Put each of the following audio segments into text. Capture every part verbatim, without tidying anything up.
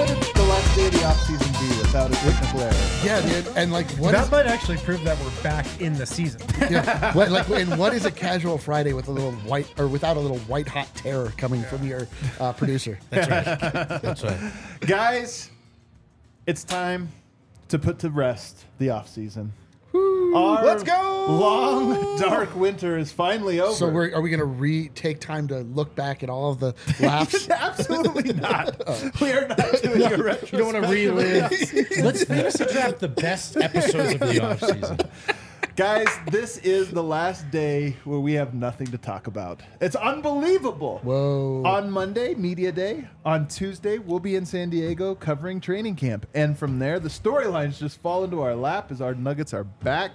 would the last day of the offseason be without a technical error? Yeah, dude. And like, what That is, might actually prove that we're back in the season. yeah, what, like, and what is a casual Friday with a little white or without a little white hot terror coming from your uh, producer? That's right. That's right. Guys, it's time to put to rest the offseason. Our Let's go! long, dark winter is finally over. So we're, are we going to re take time to look back at all of the laughs? Absolutely not. We are not doing a retrospective. You don't want to relive. Let's fantasy draft the best episodes of the offseason. Guys, this is the last day where we have nothing to talk about. It's unbelievable. Whoa. On Monday, Media Day. On Tuesday, we'll be in San Diego covering training camp. And from there, the storylines just fall into our lap as our Nuggets are back.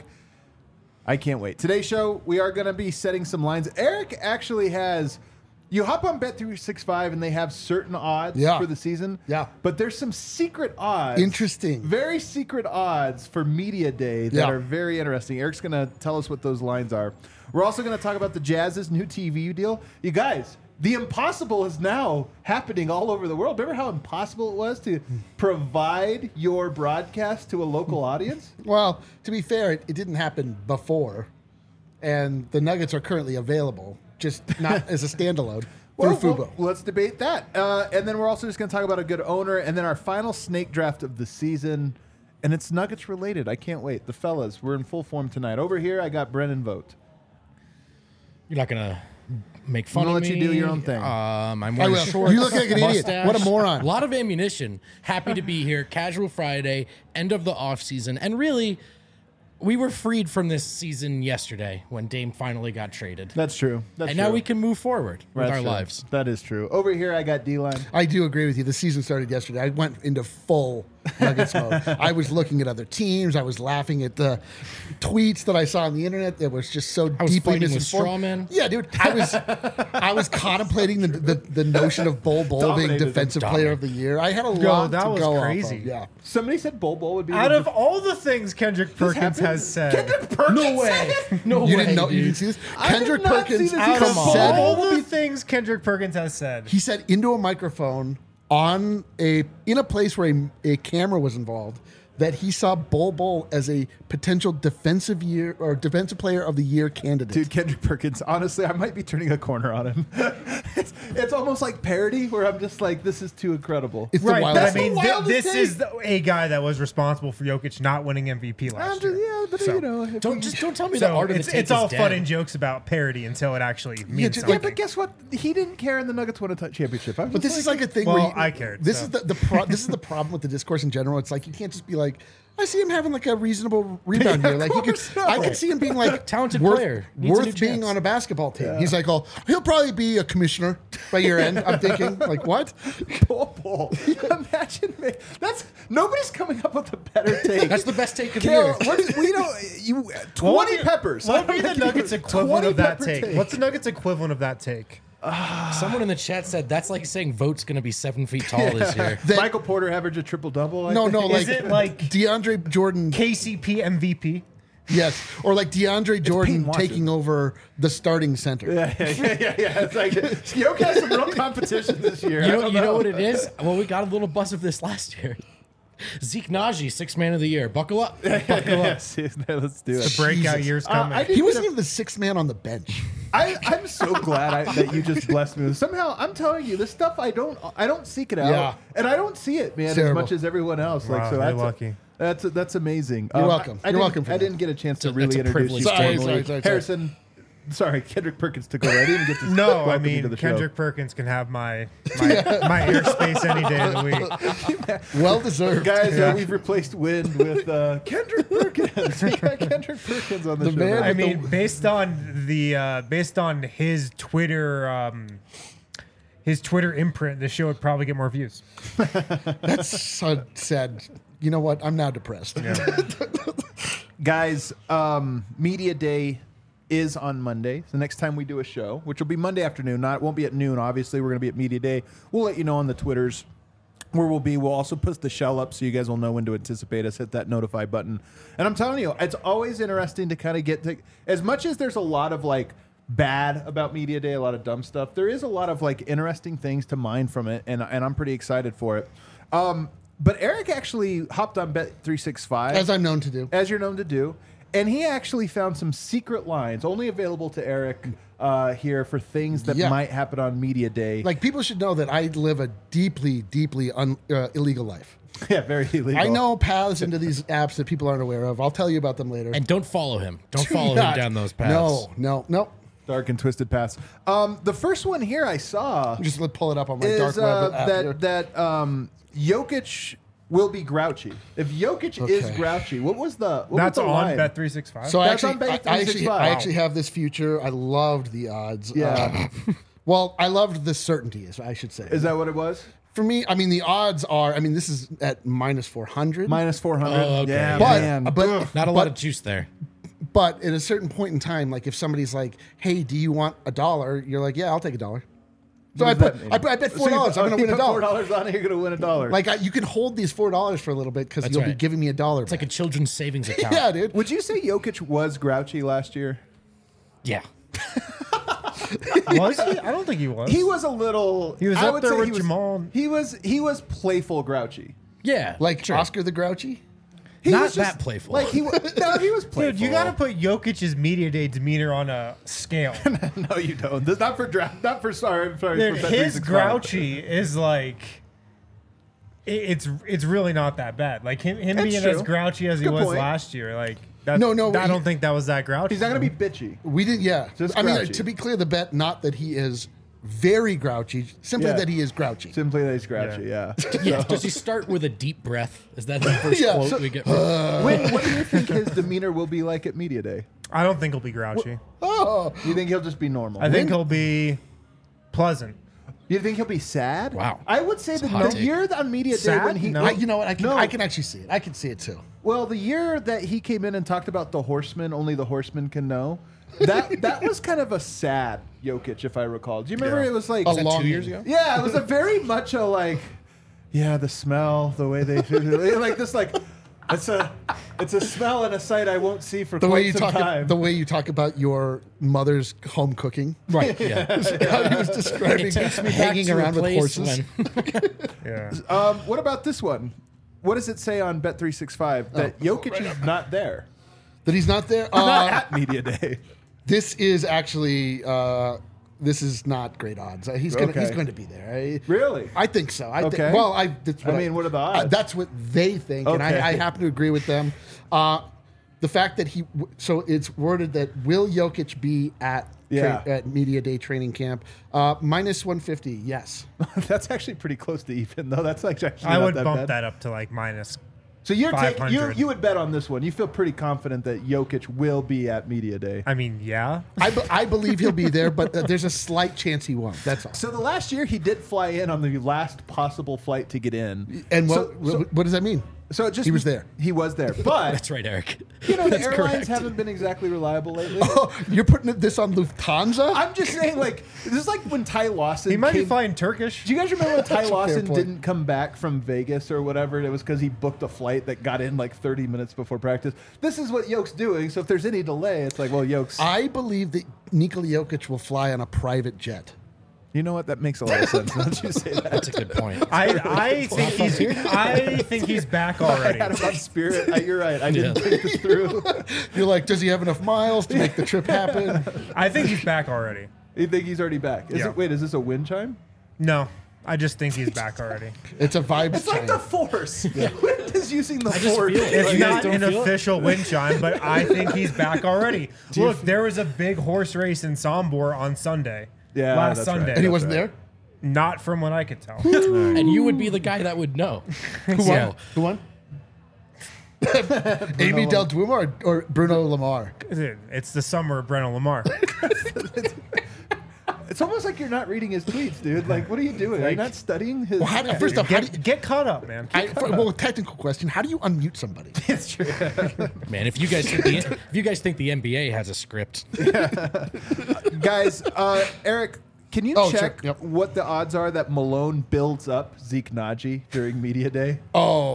I can't wait. Today's show, we are going to be setting some lines. Eric actually has... You hop on Bet three sixty-five and they have certain odds Yeah. for the season. Yeah. But there's some secret odds. Interesting. Very secret odds for Media Day that Yeah. are very interesting. Eric's going to tell us what those lines are. We're also going to talk about the Jazz's new T V deal. You guys, the impossible is now happening all over the world. Remember how impossible it was to provide your broadcast to a local audience? Well, to be fair, it, it didn't happen before, and the Nuggets are currently available, just not as a standalone through Well, Fubo. well, let's debate that. Uh, and then we're also just going to talk about a good owner, and then our final snake draft of the season. And it's Nuggets related. I can't wait. The fellas, we're in full form tonight. Over here, I got Brennan Vogt. You're not gonna make fun I'm gonna of let me. you do your own thing. Um, I'm I wearing will. shorts. You look like an idiot. mustache. What a moron. A lot of ammunition. Happy to be here. Casual Friday, end of the off season, and really, we were freed from this season yesterday when Dame finally got traded. That's true. That's and true. now we can move forward with That's our true. lives. That is true. Over here, I got D-line. I do agree with you. The season started yesterday. I went into full Nuggets mode. I was looking at other teams. I was laughing at the tweets that I saw on the internet that was just so I was deeply fighting with misinformed. strawmen. Yeah, dude. I was I was contemplating the, the, the notion of Bol Bol being Dominated them. defensive player of the year. I had a Yo, lot that to was go crazy. off of. Yeah. Somebody said Bol Bol would be Out the of all the things Kendrick Perkins happened? has said, Kendrick Perkins. No way. No You way. didn't know you dude. didn't see this? I did Kendrick not see Perkins this. out Come of on. said all the things Kendrick Perkins has said, he said into a microphone on a in a place where a, a camera was involved that he saw Bol Bol as a potential defensive year or defensive player of the year candidate. Dude, Kendrick Perkins, honestly, I might be turning a corner on him. it's, it's almost like parody where I'm just like, this is too incredible. It's the right? But I wildest. mean, the thi- wildest this thing. is the, a guy that was responsible for Jokic not winning M V P I'm last just, year. yeah, but So- you know. if Don't we- just don't tell me So the art of it's, the take it's all is fun dead. and jokes about parody until it actually means just Yeah, something. but guess what? He didn't care and the Nuggets won a t- championship. I'm But just this is like a thing Well, where you, I cared, This so. is the, the pro, this is the problem with the discourse in general. It's like you can't just be like, I see him having like a reasonable rebound here. Like you could, course not. I could see him being like Talented worth, player. Needs a new worth being chance. on a basketball team. He's like, oh, he'll probably be a commissioner by year end. I'm thinking, like, what? Bol Bol. Imagine me. That's nobody's coming up with a better take. That's the best take of the Carol, year. what's, we don't. You What would twenty be- peppers. What would be the Like, Nuggets equivalent twenty of that pepper take? What's the Nuggets equivalent of that take? Someone in the chat said that's like saying Vogt's going to be seven feet tall this year. That- Michael Porter averaged a triple double? No, no, like, Is it like DeAndre Jordan. K C P M V P? Yes, or like DeAndre Jordan Watson. taking over the starting center. Yeah, yeah, yeah, yeah, yeah. It's like Yoke has some real competition this year. You I know, don't you know what it is? Well, we got a little buzz of this last year. Zeke Naji, six man of the year. Buckle up. Buckle up. Yes, yes, let's do it. The breakout Jesus. years Uh, coming. I did He get wasn't a- even the sixth man on the bench. I, I'm so glad I, that you just blessed me with. Somehow, I'm telling you, this stuff I don't, I don't seek it out, Yeah. and I don't see it, man, as Terrible. much as everyone else. Wow, like, so you're that's lucky. That's that's amazing. You're Um, welcome. I, I You're didn't- welcome for I that. didn't get a chance to That's a- really that's a introduce privilege you. to Sorry, formally. sorry, sorry, sorry. Harrison. Sorry, Kendrick Perkins took over. I didn't even get to no, I welcome you mean to the Kendrick show. Perkins can have my my, my airspace any day of the week. Well deserved. Guys, Yeah. uh, we've replaced Wind with uh, Kendrick Perkins. We got Kendrick Perkins on the, The show. man now. I with mean, the- based on the uh, based on his Twitter um, his Twitter imprint, the show would probably get more views. That's so sad. You know what? I'm now depressed. Guys, um, Media Day is on Monday. So next time we do a show, which will be Monday afternoon, not it won't be at noon. Obviously, we're going to be at Media Day. We'll let you know on the Twitters where we'll be. We'll also put the shell up so you guys will know when to anticipate us. Hit that notify button. And I'm telling you, it's always interesting to kind of get to, as much as there's a lot of like bad about Media Day, a lot of dumb stuff, there is a lot of like interesting things to mine from it, and and I'm pretty excited for it. Um, but Eric actually hopped on Bet three sixty-five. As I'm known to do. As you're known to do. And he actually found some secret lines only available to Eric uh, here for things that Yeah. might happen on Media Day. Like, people should know that I live a deeply, deeply un, uh, illegal life. yeah, very illegal. I know paths into these apps that people aren't aware of. I'll tell you about them later. And don't follow him. Don't Do follow not. him down those paths. No, no, no. Dark and twisted paths. Um, the first one here I saw Just let pull it up on my is dark uh, web app here. that that um, Jokic will be grouchy. If Jokic is Okay. grouchy, what was the what That's was the on line? Bet three sixty-five. So I That's actually, on Bet I, I actually, three sixty-five. I actually have this future. I loved the odds. Yeah. Uh, well, I loved the certainty, I should say. Is that what it was? For me, I mean, the odds are. I mean, this is at minus four hundred. Minus four hundred. Oh, okay. Yeah, but man. but Not a lot but, of juice there. But at a certain point in time, like if somebody's like, "Hey, do you want a dollar?" You're like, "Yeah, I'll take a dollar." So I What does put, that mean? I, put, I bet So four you dollars. put- I'm oh, going to you win a put Four dollar. dollars on it, you're going to win a dollar. Like I, you can hold these four dollars for a little bit because That's you'll be right. giving me a dollar. It's like a children's savings account. yeah, dude. would you say Jokic was grouchy last year? Yeah. Was he? I don't think he was. He was a little. He was I up would there say with he was, Jamal. He was he was playful grouchy. Yeah. Like sure. Oscar the Grouchy. He Not was just- that playful. Like he was, no, he was playful. Dude, you got to put Jokic's media day demeanor on a scale. No, you don't. This, not for draft. Not for sorry. I'm sorry. Dude, for Bet his three sixty-five. grouchy is like, it, it's it's really not that bad. Like him, him That's being true. as grouchy as he Good was point. last year. Like that, No, no, I he- don't think that was that grouchy. He's not going to be bitchy. We did, yeah. Just I mean, grouchy. to be clear, the bet not that he is very grouchy, simply Yeah. that he is grouchy. Simply that he's grouchy. Yeah. Yeah. Does he start with a deep breath? Is that the first Yeah, quote so- we get? From When, what do you think his demeanor will be like at Media Day? I don't think he'll be grouchy. Oh, You think he'll just be normal? I think he'll be pleasant. You think he'll be sad? Wow. I would say that hot the take. year on Media Day Sad? when he, No. I, you know what? I can, No. I can actually see it. I can see it too. well, the year that he came in and talked about the horsemen, only the horsemen can know. That that was kind of a sad Jokic, if I recall. Do you remember Yeah. it was like A that long two years ago? Yeah, it was a very much a like, yeah, the smell, the way they like this like, it's a it's a smell and a sight I won't see for The quite way you some talk, time. the way you talk about your mother's home cooking. right. Yeah. How he was describing It takes me back hanging to a around with place horses. when Yeah. um, what about this one? What does it say on Bet three sixty-five that Jokic is not there? That he's not there. Not Uh, at Media Day. this is actually uh, this is not great odds. Uh, He's gonna he's Okay. going to be there. I, Really? I think so. I Okay. think. Well, I. That's I what mean, what are the I- odds? that's what they think, and Okay. I, I happen to agree with them. Uh, the fact that he, so it's worded that will Jokic be at Yeah. tra- at Media Day training camp? Uh, minus one fifty. Yes. That's actually pretty close to even, though. That's like actually I not would that bump bad. that up to like minus. So you're taking you five hundred. you would bet on this one. You feel pretty confident that Jokic will be at Media Day. I mean, yeah. I, be- I believe he'll be there, but uh, there's a slight chance he won't. That's all. So the last year he did fly in on the last possible flight to get in. And what, so, so, what, what does that mean? so it just He was there. He was there, but that's right, Eric. you know the That's airlines correct. haven't been exactly reliable lately. Oh, you're putting this on Lufthansa? I'm just saying, like this is like when Ty Lawson. He might came, be flying Turkish. Do you guys remember when Ty That's a fair Lawson point. didn't come back from Vegas or whatever? And it was because he booked a flight that got in like thirty minutes before practice. This is what Yoke's doing. So if there's any delay, it's like, well, Yoke's. I believe that Nikola Jokic will fly on a private jet. You know what? That makes a lot of sense. Don't you say that? That's a good point. I, I think he's I think he's back I already. had about Spirit. I, you're right. I didn't Yeah. think this through. You're like, does he have enough miles to make the trip happen? I think he's back already. You think he's already back? Is Yeah. it? Wait, is this a wind chime? No, I just think he's back already. It's a vibe It's like chime. the Force. Wind is using the just Force. feel it. It's You guys not don't an feel it? official wind chime, but I think he's back already. Look, there was a big horse race in Sombor on Sunday. Yeah, last that's right. Sunday. and he That's wasn't right. there? Not from what I could tell. And you would be the guy that would know. Who won? So, Who won? Amy Del Duomo or, or Bruno Lamar? Dude, it's the summer of Brennan Lamar. It's almost like you're not reading his tweets, dude. Like, what are you doing? Are you not studying his? Well, how, first off, how do Get, you, get caught up, man. I, for, well, technical question: how do you unmute somebody? It's true. man, if you guys think the, if you guys think the N B A has a script, Guys, uh, Eric, can you Oh, check sure. Yep. what the odds are that Malone builds up Zeke Naji during Media Day? Oh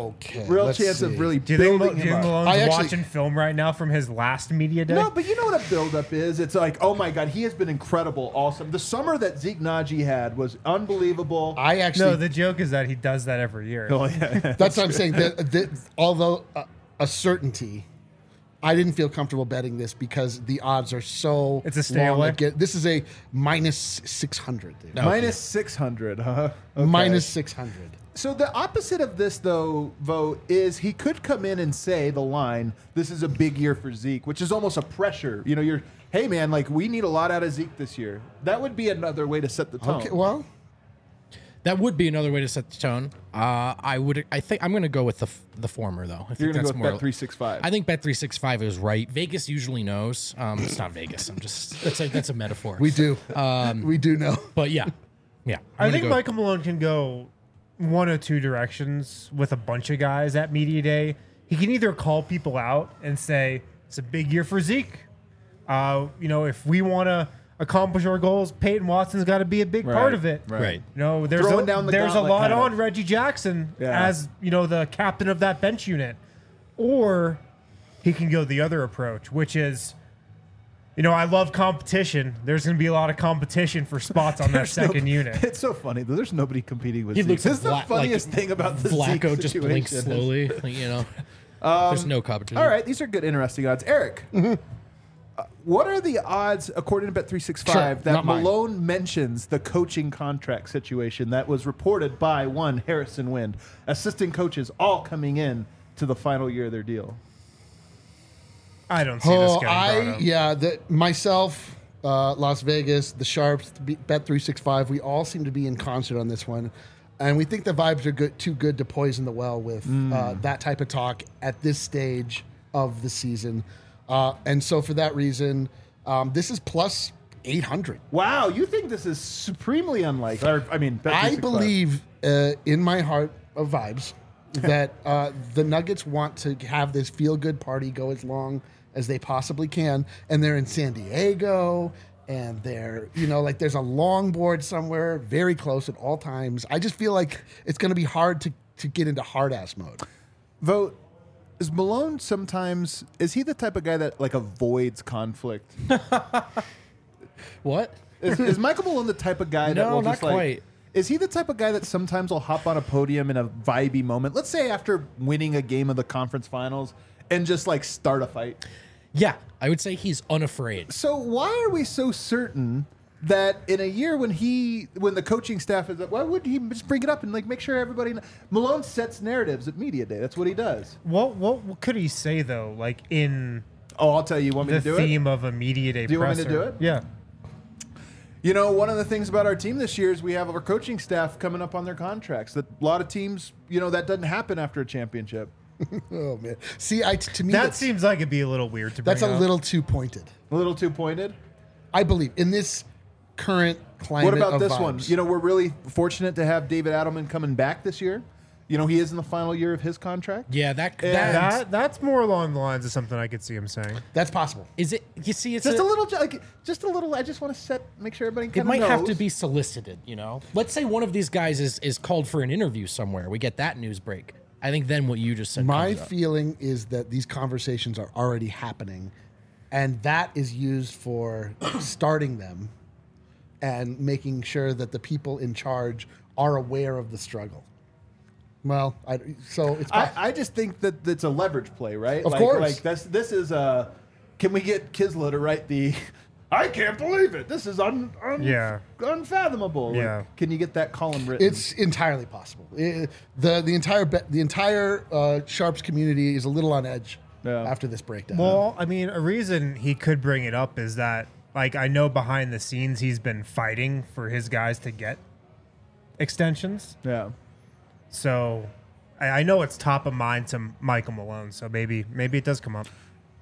Okay. Real let's chance see. of really Do you think, Mo- building do you him think up. Malone's I actually- watching film right now from his last media day? No, but you know what a buildup is? It's like, oh my God, he has been incredible all summer. The summer that Zeke Naji had was unbelievable. I actually. No, the joke is that he does that every year. Oh, yeah. That's what I'm saying. That, that, although uh, a certainty, I didn't feel comfortable betting this because the odds are so. It's a stay long away? again- This is a minus six hundred. dude. No. Minus six hundred, huh? Okay. Minus six hundred. So the opposite of this, though, vote is he could come in and say the line, "This is a big year for Zeke," which is almost a pressure. You know, you're, hey man, like we need a lot out of Zeke this year. That would be another way to set the tone. Okay, well, That would be another way to set the tone. Uh, I would. I think I'm going to go with the f- the former though. I think You're gonna that's go with more. Bet three sixty-five. I think Bet three sixty-five is right. Vegas usually knows. Um, it's not Vegas. I'm just that's a that's a metaphor. we do. we do know. But yeah, yeah. I'm I gonna think go- Michael Malone can go one or two directions with a bunch of guys at media day. He can either call people out and say it's a big year for Zeke. Uh, you know, if we want to accomplish our goals, Peyton Watson's got to be a big Right, part of it. right. You know, there's Throwing a, down the there's a gauntlet, lot kind of. on Reggie Jackson Yeah. as you know the captain of that bench unit, or he can go the other approach, which is. You know, I love competition. There's going to be a lot of competition for spots on that There's no- second unit. It's so funny though. There's nobody competing with He Zeke. looks This is the Vla- funniest like thing about the Flacco Zeke just situation. blinks slowly. Like, you know, there's no competition. All right, these are good, interesting odds. Eric, Mm-hmm. uh, what are the odds, according to Bet three sixty-five, Sure, that not mine. Malone mentions the coaching contract situation that was reported by one Harrison Wind, assistant coaches all coming in to the final year of their deal? I don't see this Oh, getting brought I up. yeah, the, myself, uh, Las Vegas, the Sharps, Bet three sixty-five. We all seem to be in concert on this one, and we think the vibes are good, too good to poison the well with uh, that type of talk at this stage of the season. Uh, and so, for that reason, um, this is plus eight hundred. Wow, you think this is supremely unlikely? Or, I mean, Bet I three sixty-five. believe uh, in my heart of vibes that uh, the Nuggets want to have this feel good party go as long as they possibly can, and they're in San Diego, and they're you know like there's a longboard somewhere very close at all times. I just feel like it's going to be hard to to get into hard ass mode. Vote. Is Malone sometimes, is he the type of guy that like avoids conflict? What? Is, is Michael Malone the type of guy that No, will not just like? quite. Is he the type of guy that sometimes will hop on a podium in a vibey moment? Let's say after winning a game of the conference finals and just like start a fight. Yeah, I would say he's unafraid. So why are we so certain that in a year when he, when the coaching staff is, why would he just bring it up and like make sure everybody? kn- Malone sets narratives at media day. That's what he does. What, what what could he say though? Like in Oh, I'll tell you. You want me the to do theme it? of a media day Do you want me presser. to do it? Yeah. You know, one of the things about our team this year is we have our coaching staff coming up on their contracts. That a lot of teams, you know, that doesn't happen after a championship. Oh man, see, I to me That that's, seems like it'd be a little weird to bring that's a up. little too pointed. A little too pointed. I believe in this current climate. What about of this vibes. one? You know, we're really fortunate to have David Adelman coming back this year. You know, he is in the final year of his contract. Yeah, that And- that That that's more along the lines of something I could see him saying. That's possible. is it. You see, it's Just a, a little, like, just a little. I just want to set, make sure everybody It kind of might knows. have to be solicited, you know. Let's say one of these guys is is called for an interview somewhere. We get that news break. I think then what you just said. My comes up. feeling is that these conversations are already happening, and that is used for starting them and making sure that the people in charge are aware of the struggle. Well, I, so it's I, I just think that it's a leverage play, right? Of like, course. Like this, this is a. Can we get Kisla to write the? I can't believe it. This is un, un Yeah. unfathomable. Like, Yeah. can you get that column written? it's entirely possible. I- the the entire be, the entire uh, Sharps community is a little on edge Yeah. after this breakdown. Well, I mean, a reason he could bring it up is that, like, I know behind the scenes he's been fighting for his guys to get extensions. yeah. So I, I know it's top of mind to Michael Malone. So maybe maybe it does come up.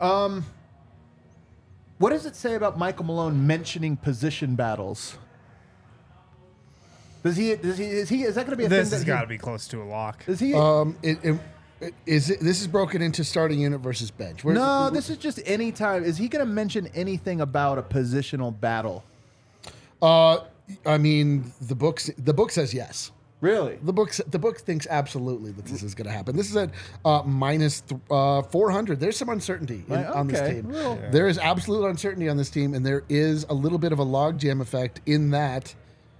What does it say about Michael Malone mentioning position battles? Does he? Does he? Is he? Is that going to be a This thing? has that he- got to be close to a lock. Is he? um, it, it, it, is it, this is broken into starting unit versus bench. Where- no, this is just any time. Is he going to mention anything about a positional battle? Uh, I mean, the books. The book says yes. Really? The book the book thinks absolutely that this is going to happen. This is at uh, minus th- uh, four hundred. There's some uncertainty in, Right, on this okay. team. Well- Yeah. There is absolute uncertainty on this team, and there is a little bit of a logjam effect in that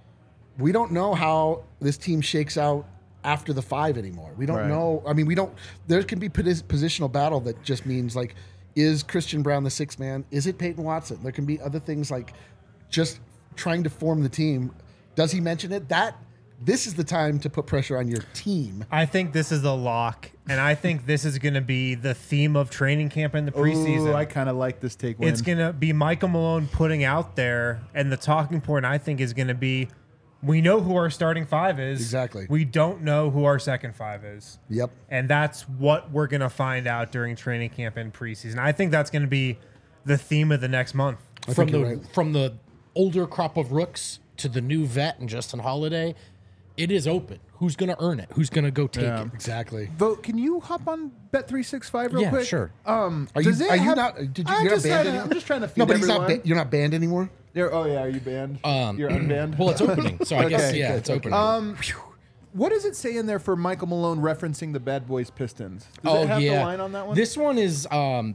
we don't know how this team shakes out after the five anymore. We don't Right. know. I mean, we don't. There can be posi- positional battle that just means like, is Christian Brown the sixth man? Is it Peyton Watson? There can be other things like just trying to form the team. Does he mention it? That this is the time to put pressure on your team. I think this is a lock, and I think this is going to be the theme of training camp in the preseason. Ooh, I kind of like this take win. It's going to be Michael Malone putting out there, and the talking point I think is going to be, we know who our starting five is. Exactly. We don't know who our second five is. Yep. And that's what we're going to find out during training camp and preseason. I think that's going to be the theme of the next month. I from think the you're right. from the older crop of rooks to the new vet and Justin Holiday, it is open. Who's going to earn it? Who's going to go take Yeah. it? Exactly. Vote. Can you hop on Bet three sixty-five real Yeah, quick? sure. Um, Are you, does it are you have- not? Did you? I'm You're not just banned trying to- anymore. I'm just trying to feed No, but he's not. everyone. Ba- you're not banned anymore. You're, oh yeah, are you banned? Um, You're unbanned. Well, it's opening, so I guess Okay, yeah, good, it's okay. opening. Um, what does it say in there for Michael Malone referencing the Bad Boys Pistons? Does oh it have yeah, the line on that one? This one is um,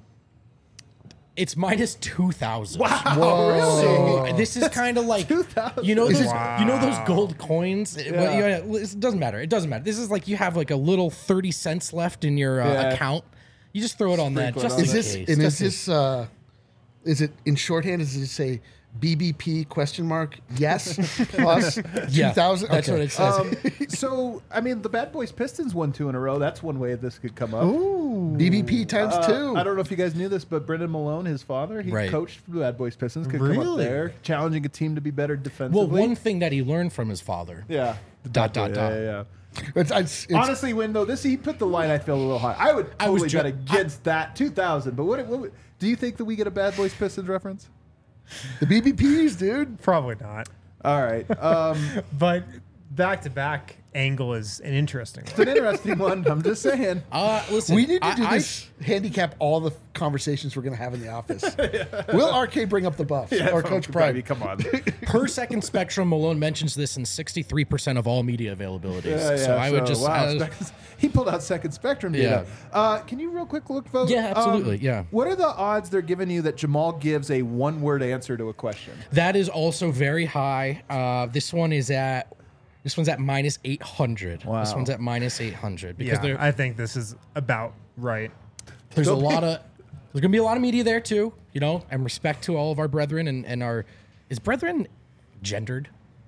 it's minus two thousand. Whoa, So this is kind of like two thousand. you know Is those this- you know those gold coins. It- well, Yeah. you know, it doesn't matter. It doesn't matter. This is like you have like a little thirty cents left in your uh, Yeah. account. You just throw it on that. Sprinkle it Just on in Is there. this? case. And is Just in- this? Uh, is it in shorthand? Does it say B B P question mark? Yes plus Yeah, two thousand. that's what it says. Um, so I mean, the Bad Boys Pistons won two in a row. That's one way this could come up. Ooh, B B P times Uh, two. I don't know if you guys knew this, but Brendan Malone, his father, he Right. coached for the Bad Boys Pistons. Could come up Really? there, challenging a team to be better defensively. well, one thing that he learned from his father. yeah. Dot, dot, yeah, dot. Yeah, yeah. It's, it's, it's, Honestly, when though this he put the line, I feel a little high. I would I was totally ju- bet against that two thousand. But what, what would- do you think that we get a Bad Boys Pistons reference? the B B Ps, dude. Probably not. All right, um, But back-to-back angle is an interesting one. it's an interesting one. I'm just saying. Uh, listen, We need to I- do I- this. handicap all the conversations we're going to have in the office. Will R K bring up the buffs or Coach Brady, Pride? come on. per second spectrum, Malone mentions this in sixty-three percent of all media availabilities. Yeah, yeah, so I would just. wow, uh, Spec- he pulled out Second Spectrum data. Uh, can you real quick look, vote? Yeah, absolutely, yeah. What are the odds they're giving you that Jamal gives a one-word answer to a question? that is also very high. Uh, this one is at. This one's at minus eight hundred. Wow. This one's at minus eight hundred because Yeah, there, I think this is about right. there's a lot of there's gonna be a lot of media there too, you know, and respect to all of our brethren and, and our is brethren gendered?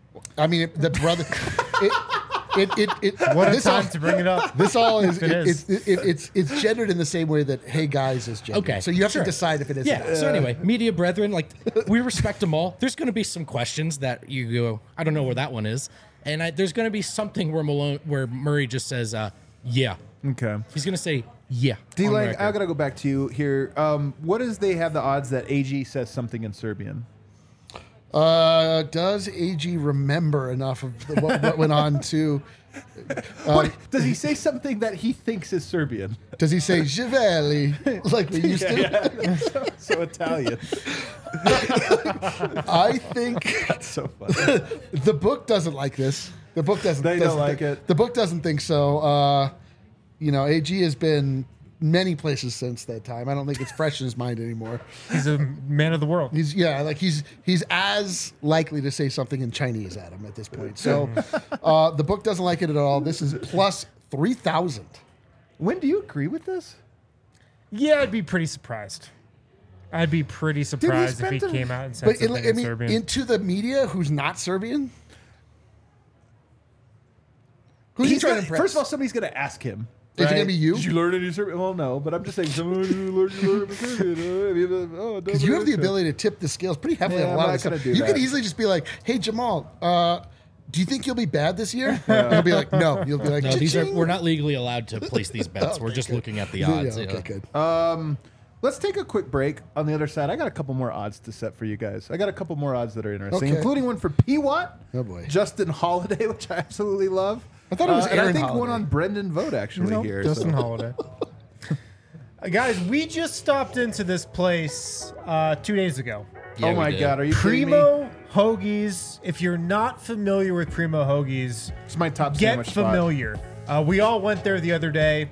I mean, it, the brother. It, it, it, it, What a this time all, to bring it up. This all is, If it it, is. It's, it, it's it's gendered in the same way that hey guys is gendered. Okay, So you have sure. to decide if it is. or Yeah. not. So anyway, media brethren, like we respect them all. There's going to be some questions that you go, I don't know where that one is, and I, there's going to be something where Malone, where Murray just says, uh, "Yeah." Okay. He's going to say, "Yeah." D on Lang, record. I gotta go back to you here. Um, what does they have the odds that A G says something in Serbian? Uh, does A G remember enough of the, what, what went on to? What, does he say something that he thinks is Serbian? Does he say "Jiveli" like we used to? so, so Italian. I think That's so funny. the book doesn't like this. The book doesn't. They don't doesn't like thi- it. The book doesn't think so. Uh, you know, A G has been many places since that time. I don't think it's fresh in his mind anymore. He's a man of the world. He's yeah, like he's he's as likely to say something in Chinese at him at this point. So uh, the book doesn't like it at all. This is plus three thousand. When do you agree with this? Yeah, I'd be pretty surprised. I'd be pretty surprised if he spent a- came out and said But in, something I in mean, Serbian. into the media who's not Serbian. Who's he He's trying gonna- to impress? First of all, somebody's going to ask him. Is it right? gonna be you? Did you learn any Serbian? Well, no, but I'm just saying. Someone who learned you learned Serbian. Oh, Because you have the ability to tip the scales pretty heavily Yeah, on a I'm lot not of stuff. gonna do You that. could easily just be like, "Hey Jamal, uh, do you think you'll be bad this year?" And he'll be like, "No." You'll be like, No, these are "Cha-ching." we're not legally allowed to place these bets. We're Okay, just good. looking at the Yeah, odds. okay, yeah. good. Um, let's take a quick break. On the other side, I got a couple more odds to set for you guys. I got a couple more odds that are interesting, Okay. including one for P. Watt, Oh, boy. Justin Holiday, which I absolutely love. I thought it was Uh, and I Aaron think one Holiday. on Brendan Vogt actually Nope, here. Justin so- Holiday. Uh, guys, we just stopped into this place uh, two days ago. Yeah, oh we my did. God, are you kidding me? Primo Hoagies. If you're not familiar with Primo Hoagies, It's my top get sandwich spot. familiar. Uh, we all went there the other day,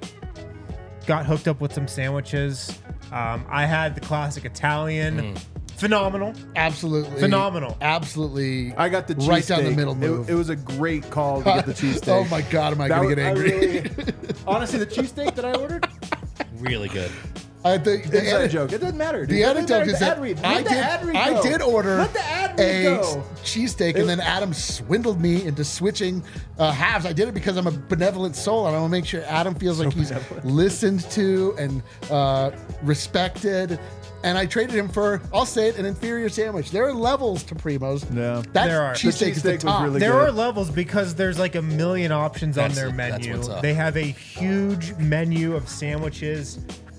got hooked up with some sandwiches. Um, I had the classic Italian. Mm. Phenomenal. Absolutely. Phenomenal. Absolutely. I got the cheese right down the steak. middle move. It, it was a great call to get the cheesesteak. Oh my God, am I That going to was- get I angry? really- honestly, the cheesesteak that I ordered, Really good. Uh, the, the inside ane- joke. It doesn't matter. The dude. Let anecdote the is that ad read. I Let the did, ad read I go. did order Let the ad read a go. cheesesteak, and then Adam swindled me into switching uh, halves. I did it because I'm a benevolent soul, and I want to make sure Adam feels like he's listened to and uh, respected. And I traded him for, I'll say it, an inferior sandwich. There are levels to Primo's. Yeah. That There are. cheesesteak The is the cheesesteak was top. really There good. are levels because there's like a million options on That's their it. That's menu. what's up. They have a huge menu of sandwiches,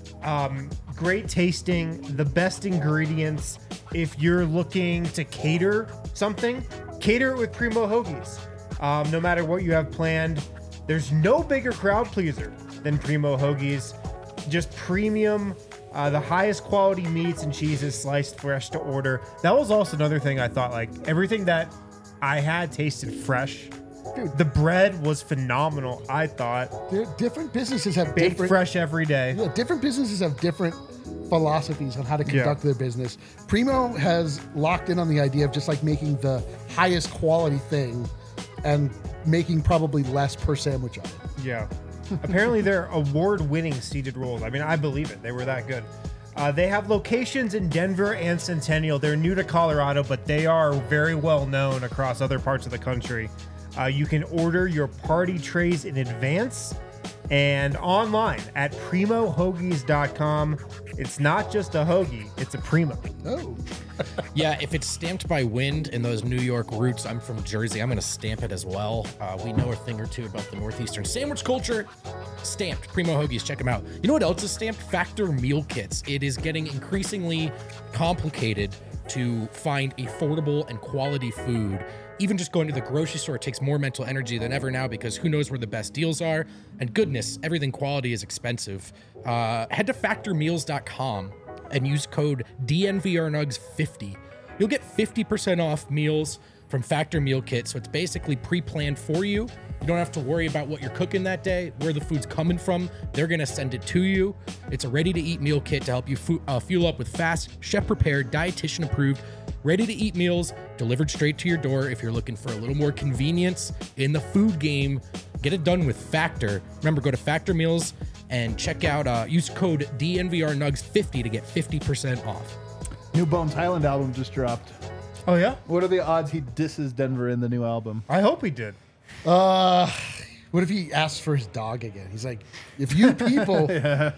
um, great tasting, the best ingredients. If you're looking to cater something, cater it with Primo Hoagies. Um, no matter what you have planned, there's no bigger crowd pleaser than Primo Hoagies. Just premium. Uh, the highest quality meats and cheeses sliced fresh to order. That was also another thing I thought, like, everything that I had tasted fresh. Dude. The bread was phenomenal, I thought. There- Different businesses have Baked different fresh every day. Yeah, different businesses have different philosophies on how to conduct their business. Primo has locked in on the idea of just like making the highest quality thing and making probably less per sandwich on it. Yeah. Apparently, they're award-winning seeded rolls. I mean, I believe it. They were that good. Uh, they have locations in Denver and Centennial. They're new to Colorado, but they are very well known across other parts of the country. Uh, you can order your party trays in advance and online at primo hoagies dot com. It's not just a hoagie, it's a Primo. Oh, Yeah, if it's stamped by wind and those New York roots, I'm from Jersey, I'm going to stamp it as well. Uh, we know a thing or two about the Northeastern sandwich culture. Stamped. Primo Hoagies, check them out. You know what else is stamped? Factor meal kits. It is getting increasingly complicated to find affordable and quality food. Even just going to the grocery store takes more mental energy than ever now because who knows where the best deals are. And goodness, everything quality is expensive. Uh, head to factor meals dot com and use code D N V R Nugs fifty. You'll get fifty percent off meals from Factor Meal Kit. So it's basically pre-planned for you. You don't have to worry about what you're cooking that day, where the food's coming from. They're going to send it to you. It's a ready-to-eat meal kit to help you fu- uh, fuel up with fast, chef-prepared, dietitian-approved, ready-to-eat meals delivered straight to your door. If you're looking for a little more convenience in the food game, get it done with Factor. Remember, go to Factor Meals and check out, uh, use code D N V R Nugs fifty to get fifty percent off. New Bones Highland album just dropped. Oh, yeah? What are the odds he disses Denver in the new album? I hope he did. Uh, what if he asks for his dog again? He's like, if you people,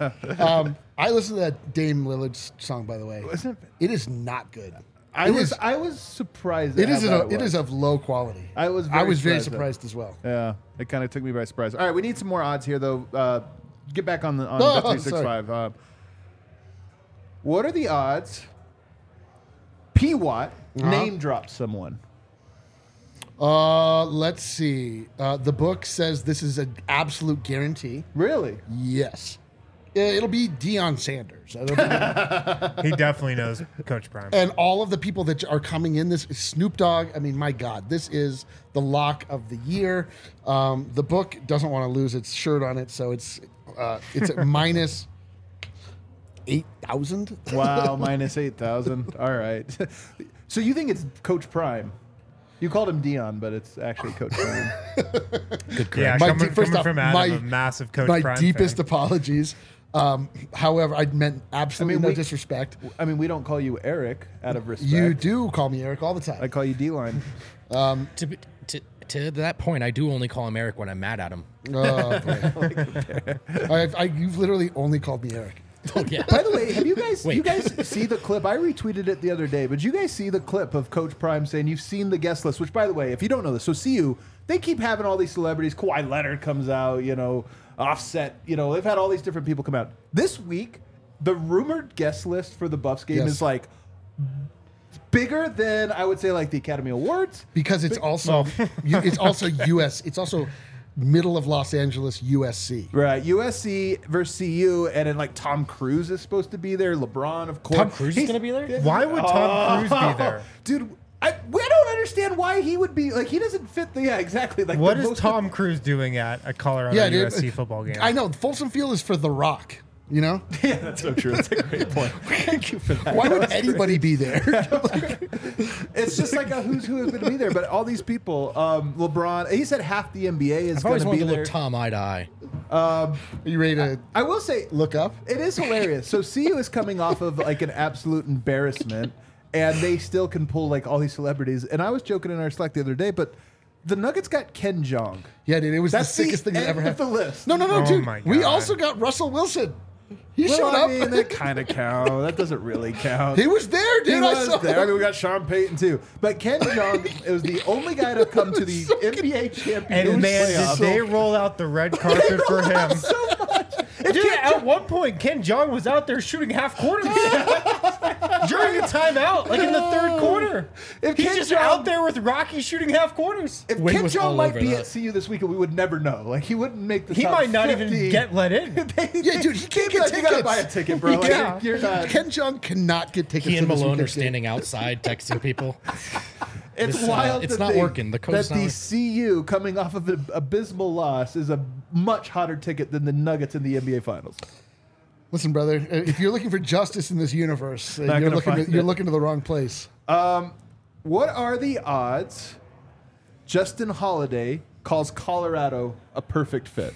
um, I listened to that Dame Lillard's song, by the way. Wasn't it? It is not good. I It was is- I was surprised. It at is, how a, bad it was. is of low quality. I was I very was very surprised surprised as well. Yeah, it kind of took me by surprise. All right, we need some more odds here, though. Uh, get back on the on Oh, Bet three sixty-five. Uh, what are the odds? P Watt Uh-huh. name drops someone. Uh, let's see. Uh, the book says this is an absolute guarantee. Really? Yes. Uh, It'll be Deion Sanders. It'll be- He definitely knows Coach Prime. and all of the people that are coming in, this Snoop Dogg. I mean, my God, this is the lock of the year. Um, the book doesn't want to lose its shirt on it, so it's uh, it's at minus eight thousand. Wow, minus eight thousand. All right. So you think it's Coach Prime? You called him Dion, but it's actually Coach Prime. Good Yeah, My coming, de- first coming off, from Adam, my- a massive Coach My Prime deepest fan. apologies. Um, however, I meant absolutely I mean, no we- disrespect. I mean, we don't call you Eric out of respect. You do call me Eric all the time. I call you D-line. To, be- to, to that point, I do only call him Eric when I'm mad at him. Oh, boy. I, I, you've literally only called me Eric. Oh, yeah. By the way, have you guys Wait. you guys see the clip? I retweeted it the other day, but you guys see the clip of Coach Prime saying you've seen the guest list, which by the way, if you don't know this, so C U, they keep having all these celebrities. Kawhi Leonard comes out, you know, Offset, you know, they've had all these different people come out. This week, the rumored guest list for the Buffs game Yes. is like bigger than I would say like the Academy Awards. Because it's also you, it's also U S. It's also middle of Los Angeles, U S C. Right, U S C versus C U, and then like Tom Cruise is supposed to be there. LeBron, of course. Tom Cruise is He's- gonna be there? Why would Tom Cruise be there? Dude, I, we don't understand why he would be like he doesn't fit the yeah exactly like What the is most- Tom Cruise doing at a Colorado Yeah, U dude. S C football game? I know Folsom Field is for The Rock. You know, Yeah, that's so true. That's a great point. Thank you for that. why That would was anybody be there? It's just like a who's who is going to be there, but all these people, um, LeBron. He said half the N B A is I've going always to wanted be to there. look Tom eye to eye. Are you ready to I will say, look up? it is hilarious. So C U is coming off of like an absolute embarrassment, and they still can pull like all these celebrities. And I was joking in our Slack the other day, but the Nuggets got Ken Jeong. Yeah, dude, it was That's the sickest the thing that end ever of happened. the list. No, no, no, Oh dude. my We God. also got Russell Wilson. He Well, showed I up. mean, that kind of count. That doesn't really count. He was there, dude. He I was saw there. I him. mean, we got Sean Payton too, but Ken Jeong was the only guy to come to the N B A championship and man, playoffs. did they roll out the red carpet for him? so much. If Dude, Ken at one point, Ken Jeong was out there shooting half quarters during a timeout, like in the third quarter. If He's Ken just Jeong- out there with Rocky shooting half quarters. If Wade Ken was Jeong all might over be that. at C U this weekend, we would never know. Like he wouldn't make the He top might not fifty. even get let in. Yeah, dude, he can't get Like, you gotta tickets. buy a ticket, bro. Like, Yeah. you're not. Ken Jeong cannot get tickets. He and to this Malone are weekend's game. standing outside texting people. It's This, uh, wild. it's to not think working. The code's that not the working. C U coming off of an abysmal loss is a much hotter ticket than the Nuggets in the N B A Finals. Listen, brother, uh, if you're looking for justice in this universe, uh, Not you're gonna looking to, find you're it. looking to the wrong place. What are the odds Justin Holiday calls Colorado a perfect fit?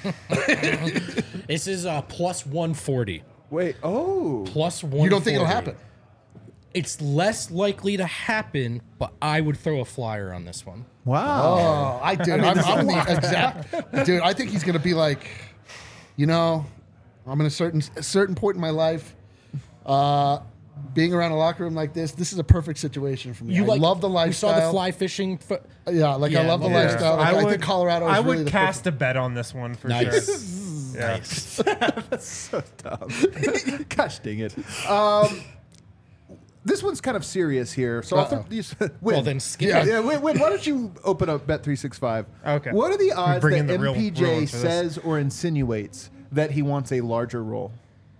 This is uh, plus one forty. Wait, oh. Plus one forty. You don't think it'll happen? It's less likely to happen, but I would throw a flyer on this one. Wow. Oh, I do. I'm, I'm in the exact dude. I think he's going to be like, you know, I'm in a certain a certain point in my life. Uh, being around a locker room like this, this is a perfect situation for me. You I like, love the You lifestyle. saw the fly fishing. Fo- Yeah, like I Yeah, love the yeah. lifestyle. Like, I, think Colorado is I really would the cast a bet on this one for nice. sure. Yeah. Nice. So dumb. Gosh dang it. Um, this one's kind of serious here. So I'll Uh-oh. throw these. Well, then skip Yeah. it. Yeah, wait, wait, why don't you open up Bet three sixty-five? Okay. What are the odds bring that in the real- real M P J ones for this. says or insinuates that he wants a larger role?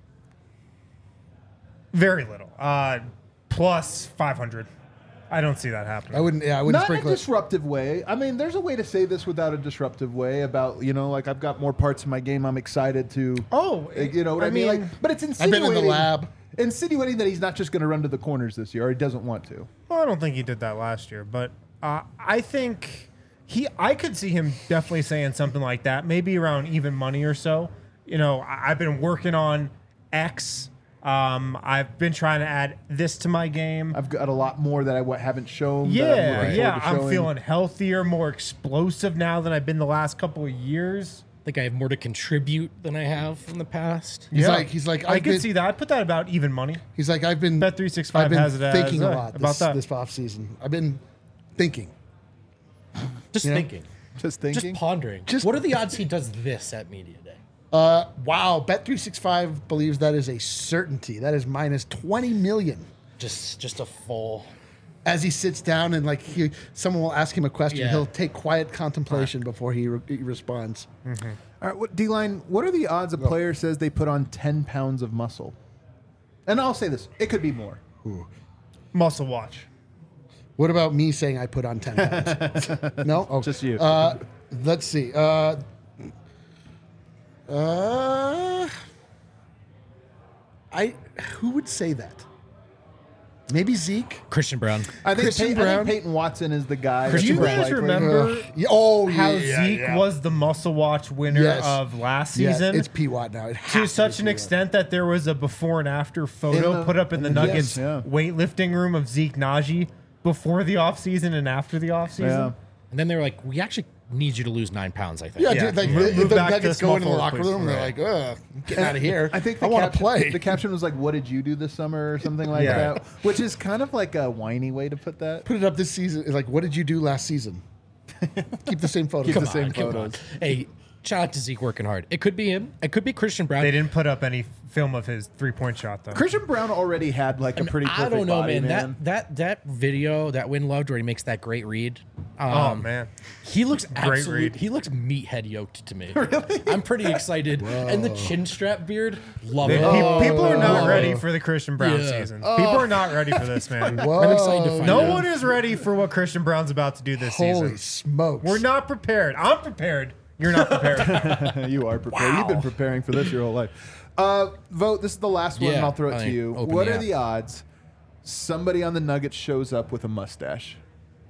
Very little. Uh, plus five hundred. I don't see that happening. I wouldn't. Yeah, I wouldn't Not in a sprinkle it. disruptive way. I mean, there's a way to say this without a disruptive way about, you know, like I've got more parts in my game I'm excited to. Oh, uh, you know what I, I mean? mean, Like, but it's I've insinuating. been in the lab. Insinuating that he's not just going to run to the corners this year, or he doesn't want to. Well, I don't think he did that last year, but uh, I think he. I could see him definitely saying something like that, maybe around even money or so. You know, I, I've been working on X. Um, I've been trying to add this to my game. I've got a lot more that I w- haven't shown. that I'm yeah, looking yeah. forward to I'm showing. feeling healthier, more explosive now than I've been the last couple of years. I think I have more to contribute than I have in the past. He's Yeah. like, he's like, I I've could been, see that. I'd put that about even money. He's like, I've been. Bet three sixty-five I've been has it as, thinking uh, a lot about this, that. this off season. I've been thinking. Just You know? thinking. Just Just thinking. pondering. Just- what are the odds he does this at Media Day? Uh, wow, Bet three sixty-five believes that is a certainty. That is minus twenty million. Just just a full. As he sits down and like he, someone will ask him a question, Yeah. he'll take quiet contemplation before he, re- he responds. All right, what, D-line, what are the odds a player says they put on ten pounds of muscle? And I'll say this, it could be more. Muscle watch. What about me saying I put on ten pounds? No, oh, Just you. Uh, let's see. Uh, uh, I who would say that? Maybe Zeke. Christian Brown. I think, Christian Pey- I Brown. think Peyton Watson is the guy. Do Christian you that's Brown. guys likely. remember Ugh. Yeah, oh, how yeah, Zeke yeah. was the muscle watch winner Yes. of last Yeah, season? it's P Watt now. It to has such be an P-Watt. extent that there was a before and after photo In the- put up in the in the- Nuggets yes, yeah. weightlifting room of Zeke Najee before the offseason and after the offseason. Yeah. And then they were like, we actually need you to lose nine pounds, I think. Yeah, Yeah. dude, like Move- the, move the back to Nuggets small go into the forward, locker please. room and they're like, ugh, I'm getting out of here. I think the I want to caption- play. The caption was like, "What did you do this summer?" or something like Yeah. that, which is kind of like a whiny way to put that. Put it up this season. It's like, what did you do last season? Keep the same photos. Keep Come the on. same Come on. photos. Hey, Shout out to Zeke working hard. It could be him. It could be Christian Brown. They didn't put up any film of his three point shot though. Christian Brown already had like a And pretty perfect I don't know, body, man. man. That that that video that Win loved where he makes that great read. Um, Oh man. He looks absolute. read. He looks meathead yoked to me. Really? I'm pretty excited. And the chin strap beard, love They- it. pe- people are not Oh. ready for the Christian Brown Yeah. season. People are not ready for this, man. Whoa. I'm excited to find No out. one is ready for what Christian Brown's about to do this Holy season. smokes. We're not prepared. I'm prepared. You're not prepared. You are prepared. You've been preparing for this your whole life. Uh, vote. This is the last one, Yeah, and I'll throw it I to think you. open What the are app. the odds somebody on the Nuggets shows up with a mustache?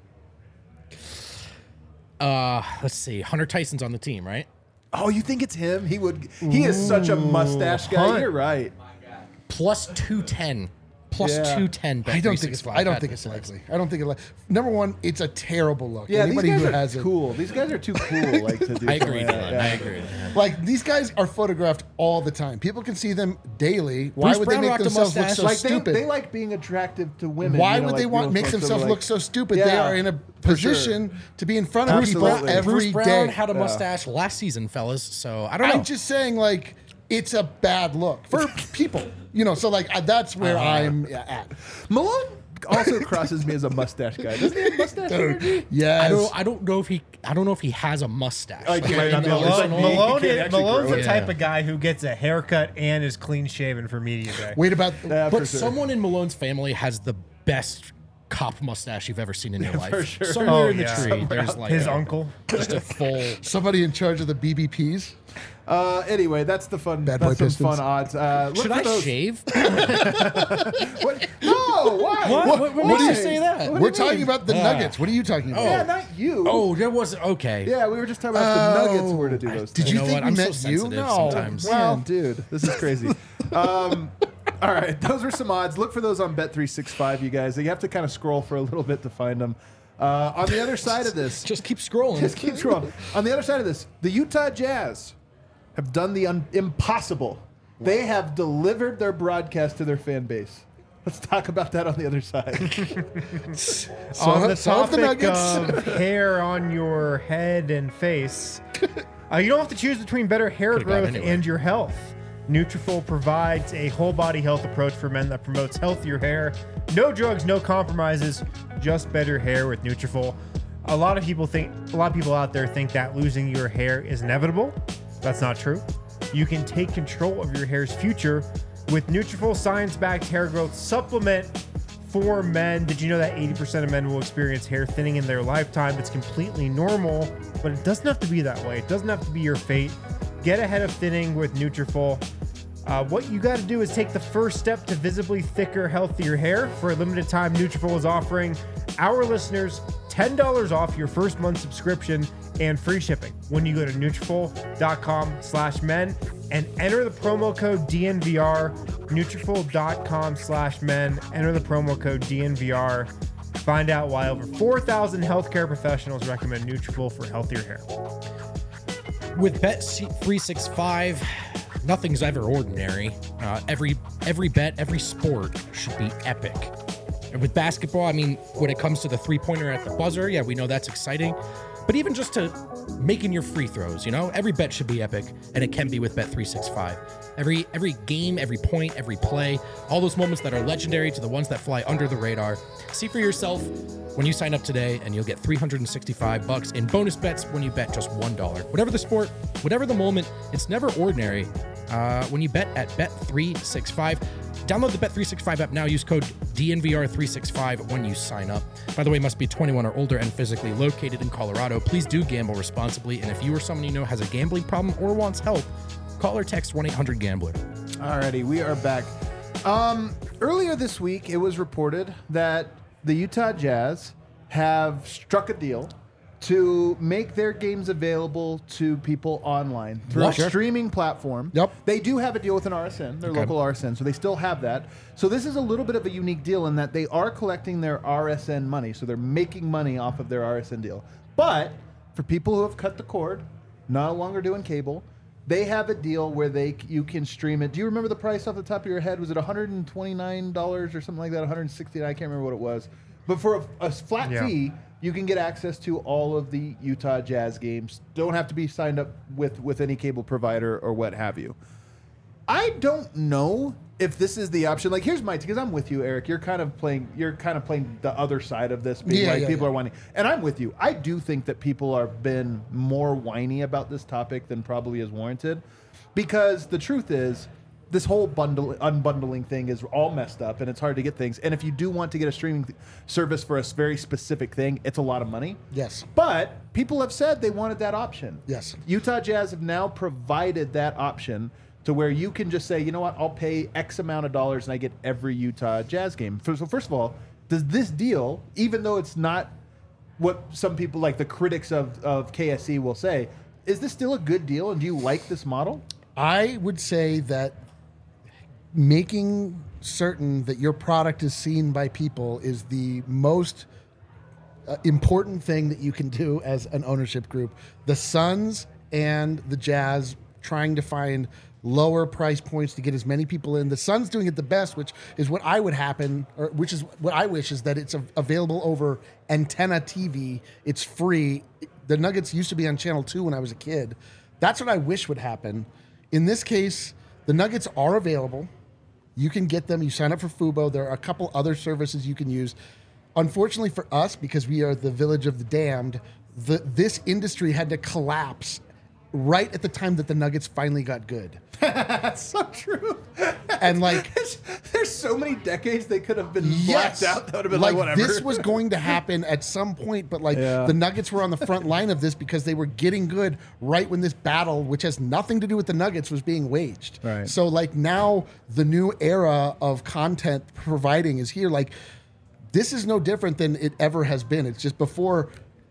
Uh, let's see. Hunter Tyson's on the team, right? Oh, you think it's him? He would. He is such a mustache guy. Hunt. You're right. Plus two ten. Plus Yeah. two ten. I don't think it's. I don't think it's likely. I don't think it. Li- Number one, it's a terrible look. Yeah, Anybody these who guys are has it, cool. These guys are too cool. Like to do. I agree, something like Dylan. that. I Yeah. agree. like these guys are photographed all the time. People can see them daily. Why Bruce would Brown they make rocked a themselves look mustache. so Like stupid? they, they like being attractive to women. Why you know, would like they want real make folks that are themselves like- look so stupid? They Yeah, are in a for sure. position to be in front of Bruce people Absolutely. every Bruce day. Brown had a mustache last season, fellas. So I don't know. I'm just saying, like, it's a bad look for people. You know, so like uh, that's where I'm at. Malone also crosses me as a mustache guy. Doesn't he have mustache energy? Yes. I don't. I don't know if he. I don't know if he has a mustache. Oh, he Like, might not in be the able to- Malone, Malone- Malone, he can't is, actually Malone's grow the it. type Yeah. of guy who gets a haircut and is clean shaven for media day. Wait about. Yeah, for But sure. someone in Malone's family has the best cop mustache you've ever seen in your life. for sure. Somewhere Oh, in the yeah. tree, Somewhere there's out like His a- uncle. just a full. Somebody in charge of the B B Ps. Uh, anyway, that's the fun. Bad boy that's some Pistons. fun odds. Uh, look Should for I those. shave? What? No, why? What? What- what makes Why? you say that? What do We're you talking mean? about the Nuggets. What are you talking about? Yeah, not you. Oh, there was okay. Yeah, we were just talking about if the Nuggets Oh. were to do those. Did things. you know think what? we I'm so meant you? sensitive No. sometimes. Man, Well, dude, this is crazy. um, all right, those are some odds. Look for those on Bet three sixty-five, you guys. You have to kind of scroll for a little bit to find them. Uh, on the other side of this, Just keep scrolling. just keep scrolling. On the other side of this, the Utah Jazz have done the un- impossible. They have delivered their broadcast to their fan base. Let's talk about that on the other side. So, on the so have the topic Nuggets. of hair on your head and face, uh, you don't have to choose between better hair Could've gone growth anywhere. and your health. Nutrafol provides a whole body health approach for men that promotes healthier hair. No drugs, no compromises, just better hair with Nutrafol. A lot of people think, a lot of people out there think that losing your hair is inevitable. That's not true. You can take control of your hair's future with Nutrafol science-backed hair growth supplement for men. Did you know that eighty percent of men will experience hair thinning in their lifetime? It's completely normal, but it doesn't have to be that way. It doesn't have to be your fate. Get ahead of thinning with Nutrafol. Uh, what you got to do is take the first step to visibly thicker, healthier hair. For a limited time, Nutrafol is offering our listeners ten dollars off your first month subscription and free shipping when you go to Nutrafol.com slash men and enter the promo code D N V R. Nutrafol.com slash men. Enter the promo code D N V R. Find out why over four thousand healthcare professionals recommend Nutrafol for healthier hair. With Bet three sixty-five, nothing's ever ordinary. Uh, every every bet, every sport should be epic. And with basketball, I mean, when it comes to the three-pointer at the buzzer, yeah, we know that's exciting. But even just to making your free throws, you know, every bet should be epic, and it can be with Bet three sixty-five. Every every game, every point, every play, all those moments that are legendary to the ones that fly under the radar. See for yourself when you sign up today, and you'll get three hundred sixty-five bucks in bonus bets when you bet just one dollar. Whatever the sport, whatever the moment, it's never ordinary uh, when you bet at Bet three sixty-five. Download the Bet three sixty-five app now. Use code D N V R three sixty-five when you sign up. By the way, must be twenty-one or older and physically located in Colorado. Please do gamble responsibly. And if you or someone you know has a gambling problem or wants help, call or text one eight hundred gambler. Alrighty, we are back. Um, earlier this week, it was reported that the Utah Jazz have struck a deal to make their games available to people online through What? a streaming platform. Yep. They do have a deal with an R S N, their Okay. local R S N, so they still have that. So this is a little bit of a unique deal in that they are collecting their R S N money, so they're making money off of their R S N deal. But for people who have cut the cord, no longer doing cable, they have a deal where they you can stream it. Do you remember the price off the top of your head? Was it one hundred twenty-nine dollars or something like that? one hundred sixty dollars? I can't remember what it was. But for a, a flat Yeah. fee you can get access to all of the Utah Jazz games. Don't have to be signed up with, with any cable provider or what have you. I don't know if this is the option. Like, here's my, because I'm with you, Eric. You're kind of playing. You're kind of playing the other side of this. Being Yeah, like yeah, people yeah. are whining, and I'm with you. I do think that people are been more whiny about this topic than probably is warranted, because the truth is, this whole bundle unbundling thing is all messed up, and it's hard to get things. And if you do want to get a streaming th- service for a s- very specific thing, it's a lot of money. Yes. But people have said they wanted that option. Yes. Utah Jazz have now provided that option to where you can just say, you know what, I'll pay X amount of dollars and I get every Utah Jazz game. So first of all, does this deal, even though it's not what some people like the critics of, of K S E will say, is this still a good deal, and do you like this model? I would say that making certain that your product is seen by people is the most uh, important thing that you can do as an ownership group. The Suns and the Jazz trying to find lower price points to get as many people in. The Suns doing it the best, which is what I would happen, or which is what I wish, is that it's a- available over antenna T V. It's free. The Nuggets used to be on Channel two when I was a kid. That's what I wish would happen. In this case, the Nuggets are available. You can get them. You sign up for Fubo. There are a couple other services you can use. Unfortunately for us, because we are the village of the damned, the, this industry had to collapse right at the time that the Nuggets finally got good. That's so true. And like, there's, there's so many decades they could have been yes, blacked out. That would have been like, whatever. This was going to happen at some point, but like Yeah. the Nuggets were on the front line of this because they were getting good right when this battle, which has nothing to do with the Nuggets, was being waged. Right. So like now the new era of content providing is here. Like this is no different than it ever has been. It's just before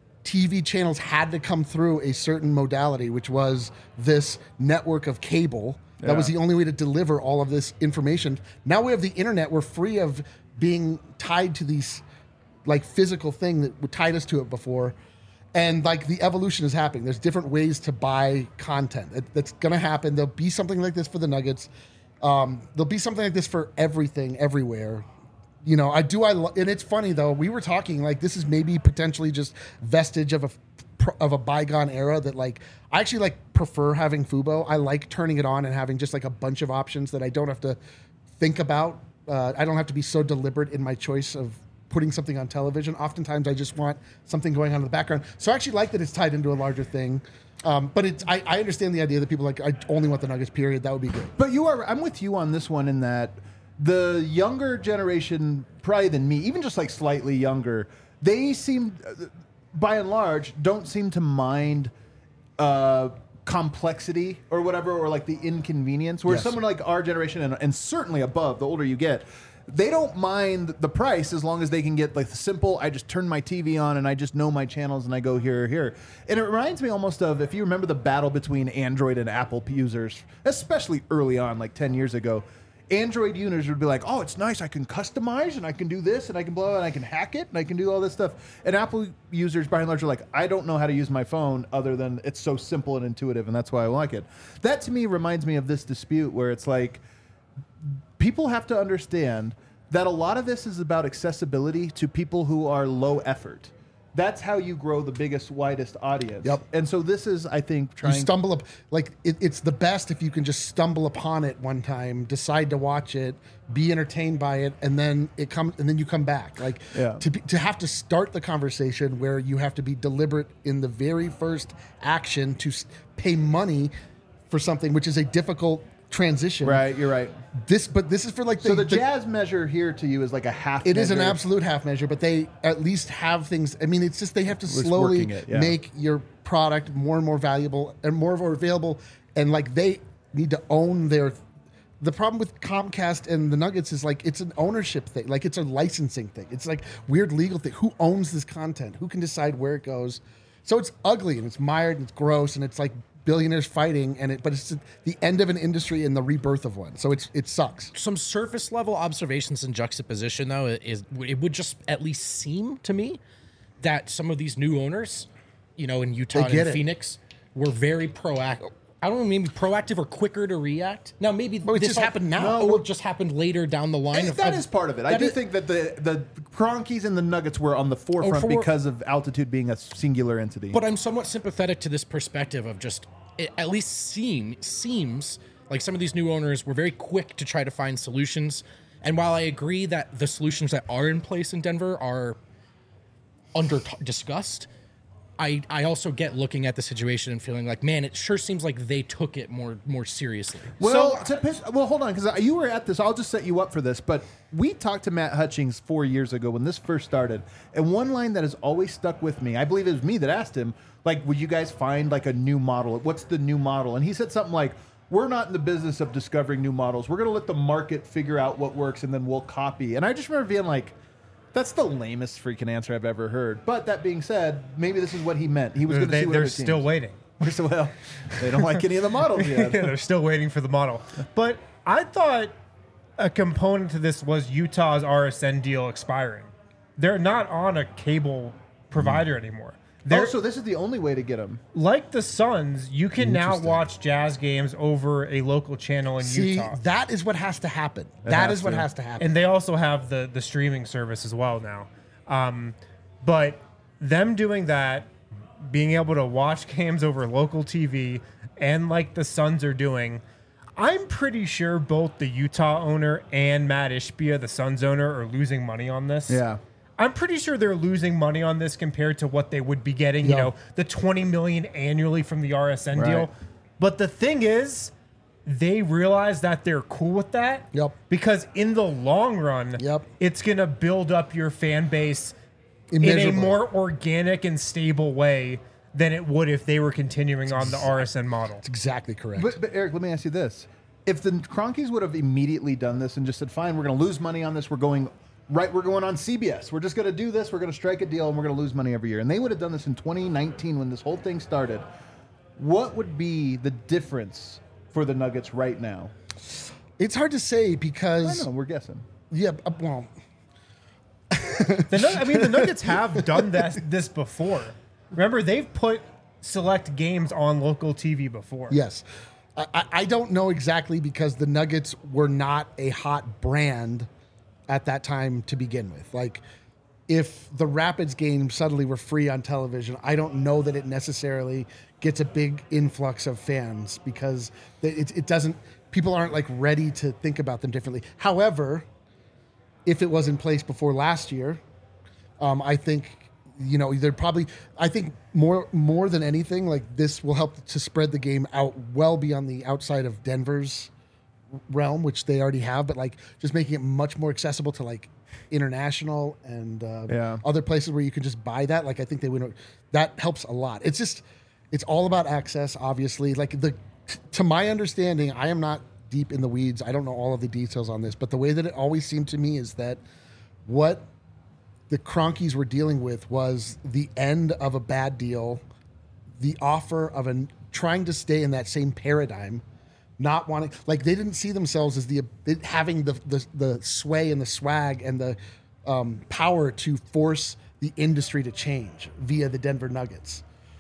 T V channels had to come through a certain modality, which was this network of cable. That was Yeah. the only way to deliver all of this information. Now we have the internet. We're free of being tied to these like physical thing that would tied us to it before. And like the evolution is happening. There's different ways to buy content. It, that's going to happen. There'll be something like this for the Nuggets. Um, there'll be something like this for everything, everywhere. You know, I do. I lo- and it's funny though. We were talking like this is maybe potentially just vestige of a of a bygone era that like I actually like prefer having Fubo. I like turning it on and having just like a bunch of options that I don't have to think about. Uh, I don't have to be so deliberate in my choice of putting something on television. Oftentimes, I just want something going on in the background. So I actually like that it's tied into a larger thing. Um, but it's I, I understand the idea that people like I only want the Nuggets. Period. That would be good. But you are, I'm with you on this one in that the younger generation, probably than me, even just like slightly younger, they seem, uh, by and large, don't seem to mind uh, complexity or whatever, or like the inconvenience. Whereas Yes. someone like our generation, and, and certainly above, the older you get, they don't mind the price as long as they can get like the simple, I just turn my T V on and I just know my channels and I go here or here. And it reminds me almost of, if you remember the battle between Android and Apple users, especially early on, like ten years ago, Android users would be like, oh, it's nice, I can customize and I can do this and I can blah, and I can hack it and I can do all this stuff. And Apple users, by and large, are like, I don't know how to use my phone other than it's so simple and intuitive, and that's why I like it. That to me reminds me of this dispute where it's like, people have to understand that a lot of this is about accessibility to people who are low effort. That's how you grow the biggest, widest audience. Yep. And so this is, I think, You trying. stumble up like it, it's the best if you can just stumble upon it one time, decide to watch it, be entertained by it, and then it comes and then you come back. Like Yeah. to be, to have to start the conversation where you have to be deliberate in the very first action to s- pay money for something, which is a difficult transition. Right, you're right. This, but this is for like the, So the jazz measure here to you is like a half. It is an measure. absolute half measure, but they at least have things. I mean, it's just they have to It's slowly working it, yeah. make your product more and more valuable and more and more available. And like they need to own their. The problem with Comcast and the Nuggets is like it's an ownership thing, like it's a licensing thing. It's like weird legal thing. Who owns this content? Who can decide where it goes? So it's ugly and it's mired and it's gross and it's like billionaires fighting and it. But it's the end of an industry and the rebirth of one. So it's it sucks. Some surface level observations and juxtaposition, though, is it would just at least seem to me that some of these new owners, you know, in Utah They and get it. Phoenix, were very proactive. I don't know, maybe proactive or quicker to react. Now, maybe Well, it this just all- happened now. or just happened later down the line. And of, that of- is part of it. I that do is- think that the the Kroenkes and the Nuggets were on the forefront for- because of altitude being a singular entity. But I'm somewhat sympathetic to this perspective of just it at least seem seems like some of these new owners were very quick to try to find solutions. And while I agree that the solutions that are in place in Denver are under t- discussed, I I also get looking at the situation and feeling like, man, it sure seems like they took it more more seriously. Well, to piss, well, hold on, because you were at this. I'll just set you up for this. But we talked to Matt Hutchings four years ago when this first started, and one line that has always stuck with me. I believe it was me that asked him, like, "Would you guys find like a new model? What's the new model?" And he said something like, "We're not in the business of discovering new models. We're going to let the market figure out what works, and then we'll copy." And I just remember being like, that's the lamest freaking answer I've ever heard. But that being said, maybe this is what he meant. He was going to They, see what they're other still teams- waiting. So, well, they don't like any of the models yet. Yeah, they're still waiting for the model. But I thought a component to this was Utah's R S N deal expiring. They're not on a cable provider anymore. They're, Oh, so this is the only way to get them. like the Suns, you can now Interesting. watch Jazz games over a local channel in See, Utah. that is what has to happen. That has is what to. has to happen. And they also have the the streaming service as well now. Um, but them doing that, being able to watch games over local T V, and like the Suns are doing, I'm pretty sure both the Utah owner and Matt Ishbia, the Suns owner, are losing money on this. Yeah. I'm pretty sure they're losing money on this compared to what they would be getting, you Yeah. know, the twenty million annually from the R S N Right. deal. But the thing is, they realize that they're cool with that. Yep. Because in the long run, Yep. it's going to build up your fan base in a Immeasurably. more organic and stable way than it would if they were continuing on the R S N model. Exactly correct. But, but Eric, let me ask you this: if the Kroenkes would have immediately done this and just said, "Fine, we're going to lose money on this. We're going right. We're going on C B S. We're just going to do this. We're going to strike a deal, and we're going to lose money every year," and they would have done this in twenty nineteen when this whole thing started, what would be the difference for the Nuggets right now? It's hard to say I because don't know. We're guessing. yeah, uh, well, The Nug- I mean, the Nuggets have done that this before. Remember, they've put select games on local T V before. yes. I, I- I don't know exactly because the Nuggets were not a hot brand at that time to begin with. Like, if the Rapids game suddenly were free on television, I don't know that it necessarily gets a big influx of fans because it, it doesn't. People aren't like ready to think about them differently. However, if it was in place before last year, um, I think you know they're probably. I think more more than anything, like this will help to spread the game out well beyond the outside of Denver's realm, which they already have, but like just making it much more accessible to like international and uh, Yeah. other places where you can just buy that. Like I think they would. That helps a lot. It's just it's all about access, obviously. Like the to my understanding, I am not deep in the weeds. I don't know all of the details on this, but the way that it always seemed to me is that what the Kroenkes were dealing with was the end of a bad deal, the offer of an trying to stay in that same paradigm, not wanting like they didn't see themselves as the having the the, the sway and the swag and the um, power to force the industry to change via the Denver Nuggets,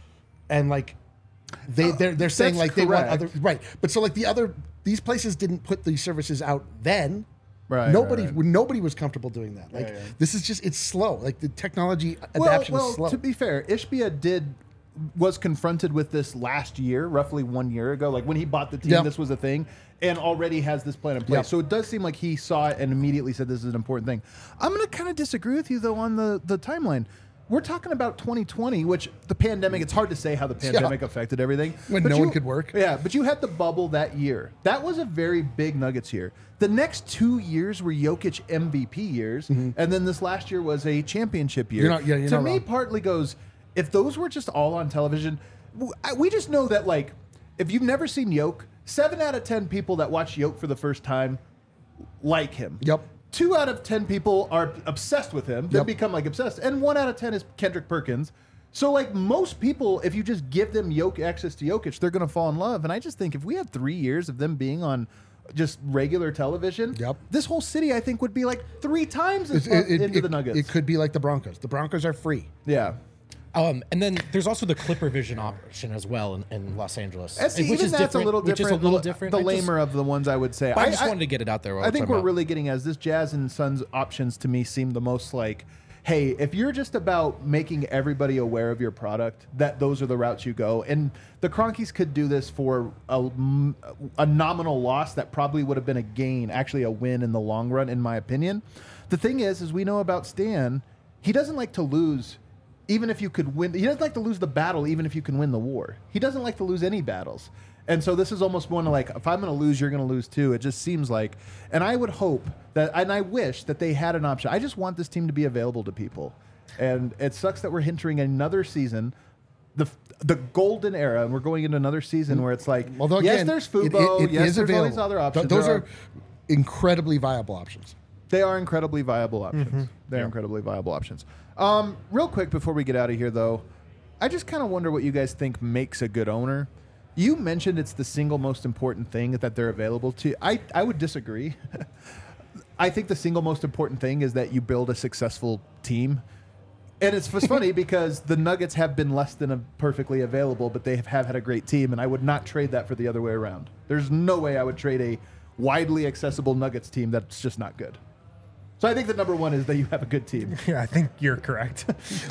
and like they they're they're saying that's like they want correct. other right, but so like the other these places didn't put these services out then. Right, Nobody, right, right. nobody was comfortable doing that. Like yeah. this is just it's slow. Like the technology Well, adaptation well, is slow. to be fair, Ishbia did was confronted with this last year, roughly one year ago. Like when he bought the team, Yep. this was a thing, and already has this plan in place. Yep. So it does seem like he saw it and immediately said this is an important thing. I'm going to kind of disagree with you though on the the timeline. We're talking about twenty twenty, which the pandemic. It's hard to say how the pandemic affected everything. When But no you- one could work. Yeah, but you had the bubble that year. That was a very big Nuggets year. The next two years were Jokic M V P years, and then this last year was a championship year. You're not- yeah, you're to not me, wrong. partly goes, if those were just all on television, w- I- we just know that, like, if you've never seen Yoke, seven out of ten people that watch Yoke for the first time like him. Yep. Two out of ten people are obsessed with him. They Yep. become like obsessed, and one out of ten is Kendrick Perkins. So, like most people, if you just give them Yoke access to Jokic, they're going to fall in love. And I just think if we had three years of them being on just regular television, Yep. this whole city, I think, would be like three times as It's- far it, it- into it- the Nuggets. it could be like the Broncos. The Broncos are free. Yeah. Um, and then there's also the Clipper Vision option as well in, in Los Angeles, And see, which even is that's different. a little Which different. is a little the, different. The I just- lamer of the ones I would say. I just wanted to get it out there. while I we're think talking we're about- really getting as this Jazz and Suns options to me seem the most like, hey, if you're just about making everybody aware of your product, that those are the routes you go. And the Cronkies could do this for a, a nominal loss that probably would have been a gain, actually a win in the long run, in my opinion. The thing is, is we know about Stan, he doesn't like to lose. Even if you could win, he doesn't like to lose the battle, even if you can win the war. He doesn't like to lose any battles. And so this is almost one of like, if I'm going to lose, you're going to lose too. It just seems like, and I would hope that, and I wish that they had an option. I just want this team to be available to people. And it sucks that we're entering another season, the the golden era, and we're going into another season where it's like, Although yes, again, there's it- Fubo, it- it yes, is there's all these available. other Th- options. Those There are incredibly viable options. They are incredibly viable options. Mm-hmm. They're incredibly viable options. Um, real quick before we get out of here, though, I just kind of wonder what you guys think makes a good owner. You mentioned it's the single most important thing that they're available to. I, I would disagree. I think the single most important thing is that you build a successful team. And it's, it's funny because the Nuggets have been less than a perfectly available, but they have, have had a great team, and I would not trade that for the other way around. There's no way I would trade a widely accessible Nuggets team that's just not good. So I think the number one is that you have a good team. Yeah, I think you're correct.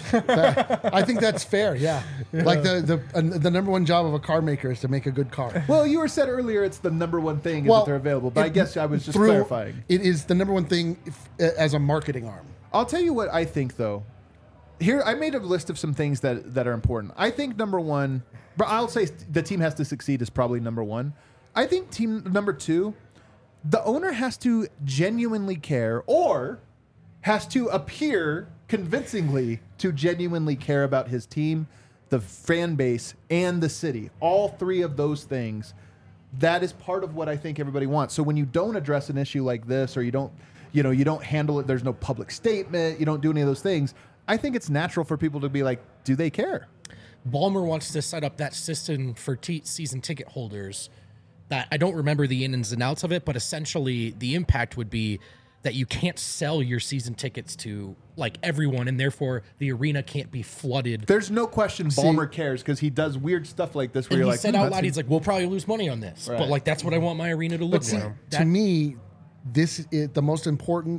I think that's fair. Yeah, like the the uh, the number one job of a car maker is to make a good car. Well, you were said earlier it's the number one thing is that they're available, but I it- guess I was just through- clarifying. It is the number one thing if, uh, as a marketing arm. I'll tell you what I think, though. Here, I made a list of some things that, that are important. I think number one, but I'll say the team has to succeed is probably number one. I think team number two, the owner has to genuinely care or has to appear convincingly to genuinely care about his team, the fan base, and the city. All three of those things. That is part of what I think everybody wants. So when you don't address an issue like this, or you don't, you know, you don't handle it, there's no public statement, you don't do any of those things, I think it's natural for people to be like, do they care? Ballmer wants to set up that system for t- season ticket holders that I don't remember the ins and outs of it, but essentially the impact would be that you can't sell your season tickets to like everyone, and therefore the arena can't be flooded. There's no question Ballmer cares because he does weird stuff like this where And you're he like, said hmm, out that's loud, he's like, we'll probably lose money on this, Right. but like that's what I want my arena to look But see, like. to That- me, this is the most important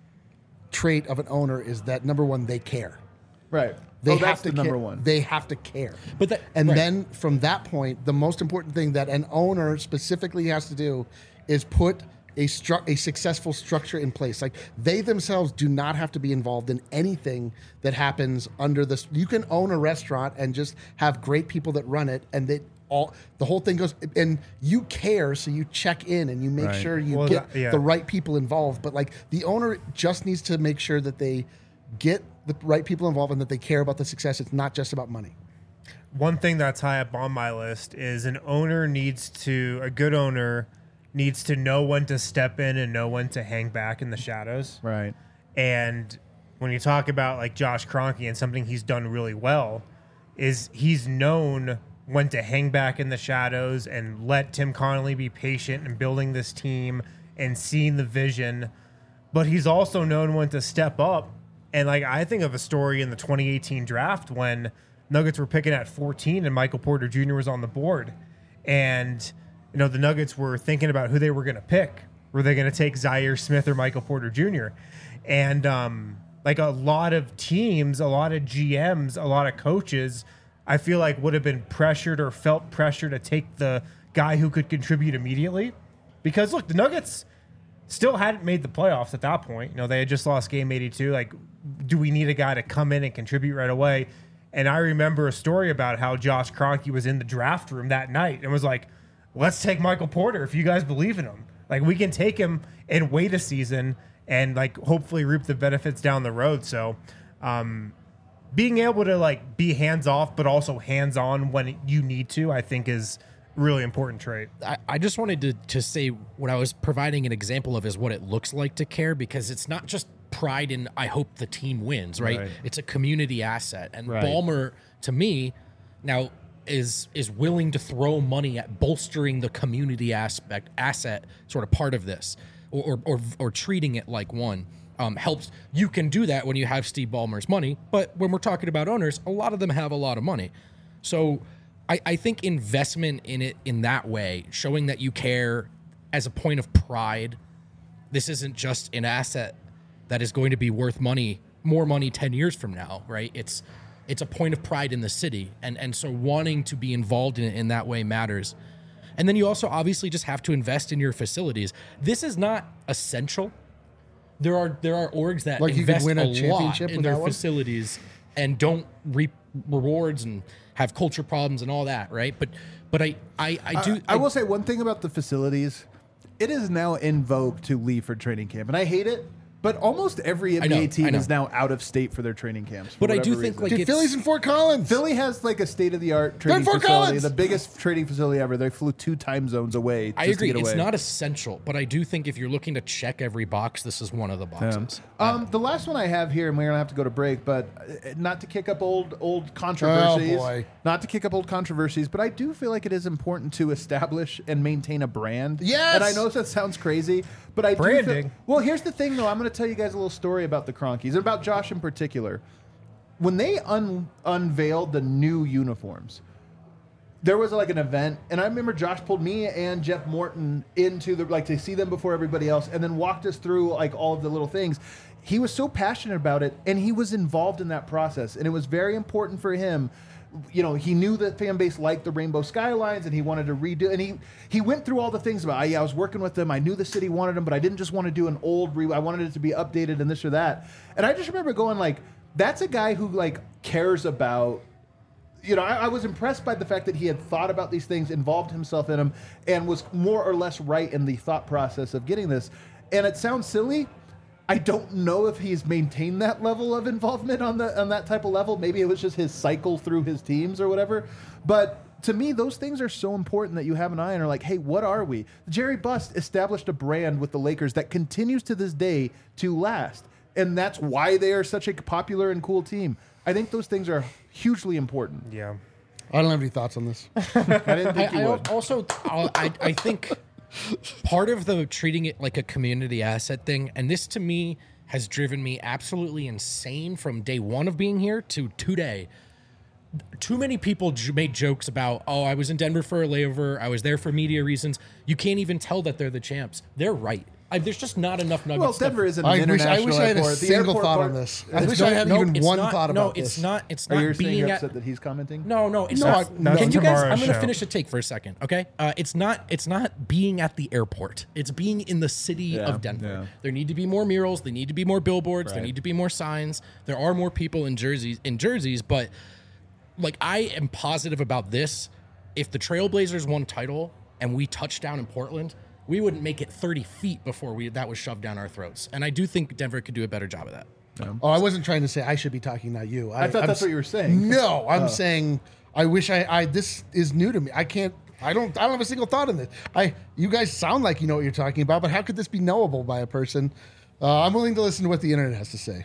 trait of an owner is that number one, they care. right. They oh, have that's to the number care. one. They have to care. But that- and right. then from that point, the most important thing that an owner specifically has to do is put a stru- a successful structure in place. Like they themselves do not have to be involved in anything that happens under this. You can own a restaurant and just have great people that run it, and that all the whole thing goes. And you care, so you check in and you make Right. sure you Well, get that- yeah. the right people involved. But like the owner just needs to make sure that they get the right people involved and that they care about the success. It's not just about money. One thing that's high up on my list is an owner needs to, a good owner needs to know when to step in and know when to hang back in the shadows. right. And when you talk about like Josh Kroenke and something he's done really well, is he's known when to hang back in the shadows and let Tim Connolly be patient in building this team and seeing the vision. But he's also known when to step up. And like I think of a story in the twenty eighteen draft when Nuggets were picking at fourteen and Michael Porter Junior was on the board. And you know, the Nuggets were thinking about who they were going to pick. Were they going to take Zaire Smith or Michael Porter Junior? And um, like a lot of teams, a lot of G Ms, a lot of coaches, I feel like would have been pressured or felt pressure to take the guy who could contribute immediately. Because look, the Nuggets still hadn't made the playoffs at that point. You know, they had just lost game eighty-two. Like, do we need a guy to come in and contribute right away? And I remember a story about how Josh Kroenke was in the draft room that night and was like, let's take Michael Porter if you guys believe in him. Like, we can take him and wait a season and, like, hopefully reap the benefits down the road. So, um, being able to, like, be hands-off but also hands-on when you need to, I think is a really important trait. I, I just wanted to, to say what I was providing an example of is what it looks like to care, because it's not just pride in I hope the team wins, right? Right. It's a community asset. And Right. Ballmer, to me, now is is willing to throw money at bolstering the community aspect asset sort of part of this, or or or, or treating it like one. um, helps. You can do that when you have Steve Ballmer's money, but when we're talking about owners, a lot of them have a lot of money. So I, I think investment in it in that way, showing that you care as a point of pride, this isn't just an asset that is going to be worth money, more money ten years from now, right? It's it's a point of pride in the city. And, and so wanting to be involved in it in that way matters. And then you also obviously just have to invest in your facilities. This is not essential. There are there are orgs that Like you could invest win a a lot championship in with their that one? facilities and don't reap rewards and have culture problems and all that, right? But but I I, I do I, I will say one thing about the facilities. It is now in vogue to leave for training camp, and I hate it. But almost every N B A know, I team know. is now out of state for their training camps. for But I do whatever think, reason. like, Dude, it's- Philly's in Fort Collins. Philly has like a state of the art training Fort facility, Collins! the biggest training facility ever. They flew two time zones away. I just agree. To get It's away. not essential, but I do think if you're looking to check every box, this is one of the boxes. Um, the last one I have here, and we're gonna have to go to break, but uh, not to kick up old old controversies. Oh, boy. Not to kick up old controversies, but I do feel like it is important to establish and maintain a brand. Yes! And I know that sounds crazy, but I do Branding. feel, well, here's the thing, though. I'm going to tell you guys a little story about the Cronkies and about Josh in particular. When they un- unveiled the new uniforms, there was like an event, and I remember Josh pulled me and Jeff Morton into the like to see them before everybody else, and then walked us through like all of the little things. He was so passionate about it, and he was involved in that process, and it was very important for him. You know, he knew that fan base liked the Rainbow Skylines, and he wanted to redo. And he he went through all the things about. Yeah, I was working with them. I knew the city wanted them, but I didn't just want to do an old. Re- I wanted it to be updated and this or that. And I just remember going like, that's a guy who like cares about. You know, I, I was impressed by the fact that he had thought about these things, involved himself in them, and was more or less right in the thought process of getting this. And it sounds silly. I don't know if he's maintained that level of involvement on the on that type of level. Maybe it was just his cycle through his teams or whatever. But to me, those things are so important that you have an eye on. Are like, hey, what are we? Jerry Buss established a brand with the Lakers that continues to this day to last, and that's why they are such a popular and cool team. I think those things are hugely important. Yeah. I don't have any thoughts on this. I didn't think I, you I would. also I'll- I, I think part of the treating it like a community asset thing, and this to me has driven me absolutely insane from day one of being here to today. Too many people j- made jokes about, oh, I was in Denver for a layover. I was there for media reasons. You can't even tell that they're the champs. They're right. I, there's just not enough Nuggets. Well, stuff. Denver isn't an I wish, I international wish I had a airport. The single airport thought part- on this. I It's wish no- I had no, even it's one not- thought no, about it's this. not. It's Are not you saying being you're at, upset that he's commenting? No, no, it's No, not. I- no. Can you guys? Tomorrow's I'm going to show. finish a take for a second, okay? Uh, it's not. It's not being at the airport. It's being in the city Yeah, of Denver. yeah. There need to be more murals. There need to be more billboards. There Right. need to be more signs. There are more people in jerseys. In jerseys, but like I am positive about this. If the Trailblazers won title and we touched down in Portland, we wouldn't make it thirty feet before we that was shoved down our throats. And I do think Denver could do a better job of that. Oh, I wasn't trying to say I should be talking, not you. I thought I'm that's s- what you were saying. No, I'm saying I wish I, I. This is new to me. I can't. I don't. I don't have a single thought in this. I. You guys sound like you know what you're talking about, but how could this be knowable by a person? Uh, I'm willing to listen to what the internet has to say.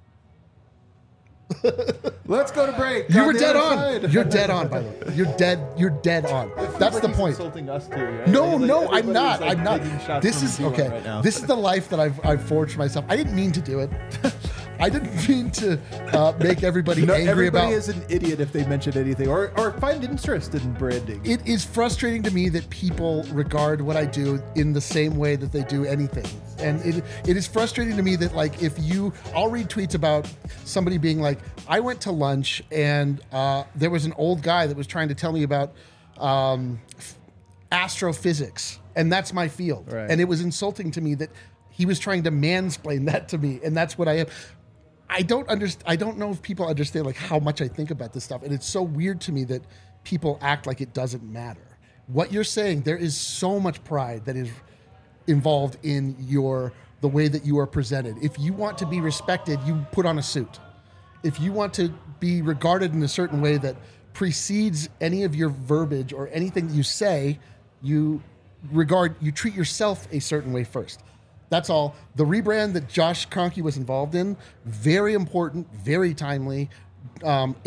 Let's go to break. You On were the dead other on. side. You're dead on. By the way, you're dead. You're dead on. That's Like the he's point. Insulting us too. Right? No, Like, no, I'm everybody's, not. like, I'm not. taking shots This from is D one okay. Right now. This is the life that I've I've forged for myself. I didn't mean to do it. I didn't mean to uh, make everybody No, angry everybody about. is an idiot if they mention anything or, or find interest in branding. It is frustrating to me that people regard what I do in the same way that they do anything. And it it is frustrating to me that, like, if you, I'll read tweets about somebody being like, I went to lunch and uh, there was an old guy that was trying to tell me about um, f- astrophysics, and that's my field. Right. And it was insulting to me that he was trying to mansplain that to me, and that's what I am. I don't understand. I don't know if people understand like how much I think about this stuff, and it's so weird to me that people act like it doesn't matter. What you're saying, there is so much pride that is involved in your the way that you are presented. If you want to be respected, you put on a suit. If you want to be regarded in a certain way that precedes any of your verbiage or anything that you say, you regard you treat yourself a certain way first. That's all. The rebrand that Josh Kroenke was involved in, very important, very timely. Um, it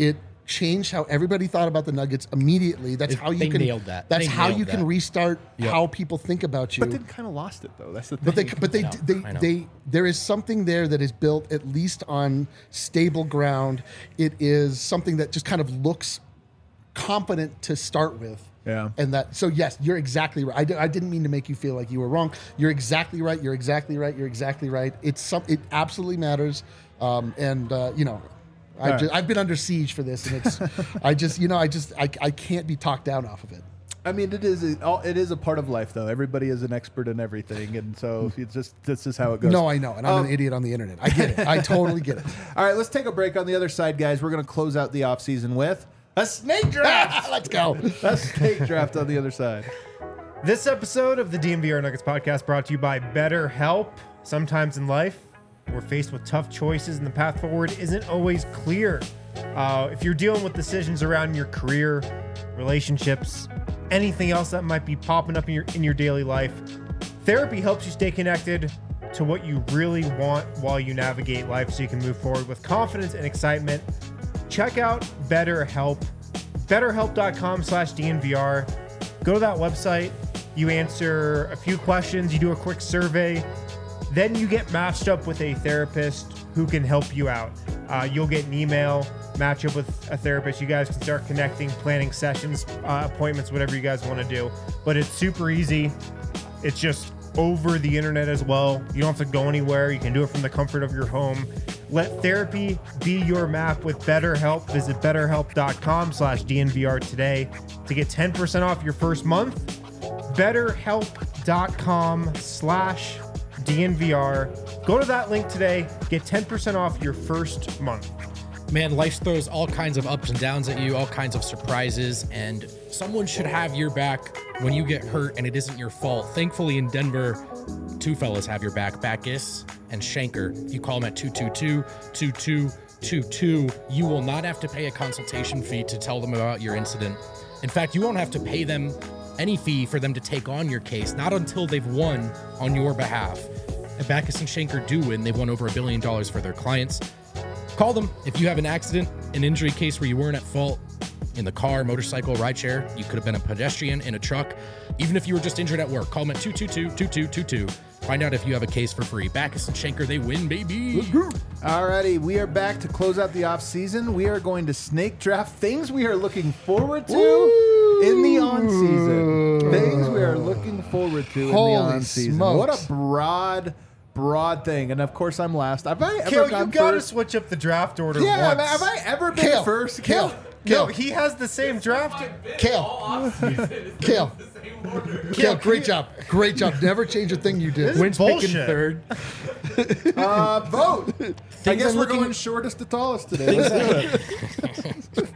changed how everybody thought about the Nuggets immediately. That's It- how you they can. nailed that. That's They how nailed you can that. restart Yep. how people think about you. But then kind of lost it though. That's the thing. But they, but they, know, they, I know. they, there is something there that is built at least on stable ground. It is something that just kind of looks competent to start with. Yeah. And that, so yes, you're exactly right. I, di- I didn't mean to make you feel like you were wrong. You're exactly right. You're exactly right. You're exactly right. It's some, it absolutely matters. Um, and uh, you know, I've, right. just, I've been under siege for this, and it's, I just, you know, I just, I, I can't be talked down off of it. I mean, it is a, all- it is a part of life, though. Everybody is an expert in everything, and so it's just this is how it goes. No, I know, and I'm Um, an idiot on the internet. I get it. I totally get it. All right, let's take a break. On the other side, guys, we're going to close out the off season with a snake draft. Let's go. A snake draft on the other side. This episode of the D N V R Nuggets podcast brought to you by BetterHelp. Sometimes in life, we're faced with tough choices and the path forward isn't always clear. Uh, if you're dealing with decisions around your career, relationships, anything else that might be popping up in your in your daily life, therapy helps you stay connected to what you really want while you navigate life so you can move forward with confidence and excitement. Check out BetterHelp, betterhelp.com slash DNVR. Go to that website. You answer a few questions. You do a quick survey. Then you get matched up with a therapist who can help you out. Uh, you'll get an email, match up with a therapist. You guys can start connecting, planning sessions, uh, appointments, whatever you guys want to do. But it's super easy. It's just over the internet as well. You don't have to go anywhere. You can do it from the comfort of your home. Let therapy be your map with BetterHelp. Visit betterhelp.com slash DNVR today to get ten percent off your first month. betterhelp.com slash DNVR. Go to that link today. Get ten percent off your first month. Man, life throws all kinds of ups and downs at you, all kinds of surprises, and someone should have your back when you get hurt and it isn't your fault. Thankfully, in Denver, two fellas have your back, Backus and Shanker. You call them at two two two, two two two two. You will not have to pay a consultation fee to tell them about your incident. In fact, you won't have to pay them any fee for them to take on your case, not until they've won on your behalf. And Backus and Shanker do win. They've won over a billion dollars for their clients. Call them if you have an accident, an injury case where you weren't at fault in the car, motorcycle, rideshare. You could have been a pedestrian in a truck. Even if you were just injured at work, call them at two two two, two two two two. Find out if you have a case for free. Backus and Shanker, they win, baby. Alrighty, we are back to close out the off season. We are going to snake draft things we are looking forward to in the on season. Things we are looking forward to Holy in the on season. smokes. What a broad, broad thing. And of course, I'm last. Have I ever Kale, you gone gotta first? switch up the draft order Yeah, once. have I ever been Kale, first? Kale, No, Kale, he has the same draft. Kale, Kale, Kale, great job, great job. Never change a thing you did. This is Wins picking bullshit. third. Uh, vote. I guess I'm we're looking- going shortest to tallest today. Let's do it.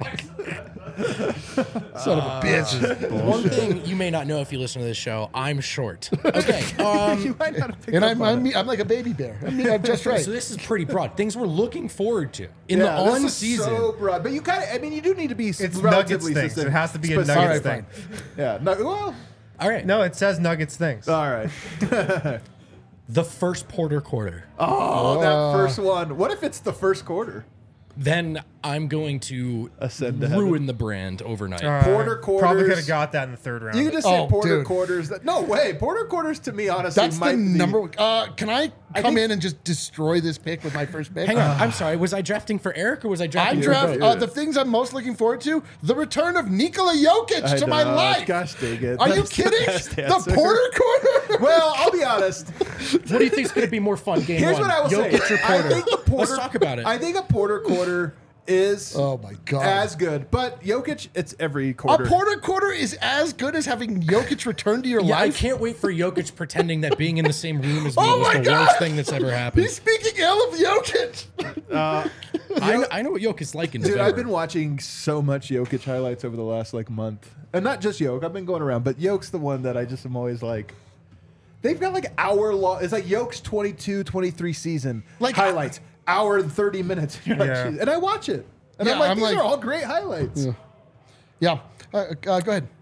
Son of a bitch. One thing you may not know if you listen to this show, I'm short. Okay. Um, You might not have picked And up I'm, on I'm, it. I'm like a baby bear. I mean, I'm just right. so this is pretty broad. Things we're looking forward to in Yeah, the this on is season. so broad. But you kind of, I mean, you do need to be It's relatively Nuggets things. specific- It has to be a specific. Nuggets All right, thing. Yeah. No, well, All right. No, it says Nuggets things. all right. The first Porter quarter. Oh, that first one. What if it's the first quarter? Then I'm going to Ascend to ruin heaven. the brand overnight. Uh, Porter Probably quarters. could have got that in the third round. You could just say Oh, Porter dude. quarters. That, no way. Porter quarters to me, honestly, That's might the be- number. Uh, can I come think- in and just destroy this pick with my first pick? Hang on. I'm sorry. Was I drafting for Eric or was I drafting I'm for draft both? uh, the things I'm most looking forward to: the return of Nikola Jokic I to my know. life. Gosh dang it. Are you That's the kidding? best The, answer. Porter quarter. Well, I'll be honest. What do you think is going to be more fun? Game Here's one. what I will Jokic say. or I Porter? think the Porter, Let's talk about it. I think a Porter quarter is Oh my god. as good. But Jokic, it's every a quarter. Porter quarter is as good as having Jokic return to your yeah, I life. can't wait for Jokic pretending that being in the same room as me Oh was my the God! worst thing that's ever happened. He's speaking ill of Jokic. Uh, I, know, I know what Jokic's like in Dude, November. I've been watching so much Jokic highlights over the last like month, and not just Jokic. I've been going around, but Jokic's the one that I just am always like. They've got like hour long. It's like Jokic's twenty-two, twenty-three season Like- highlights, hour and thirty minutes. You're like, Yeah. "Jeez." And I watch it, and Yeah, I'm like, I'm these like- are all great highlights. Yeah. Uh, uh, go ahead.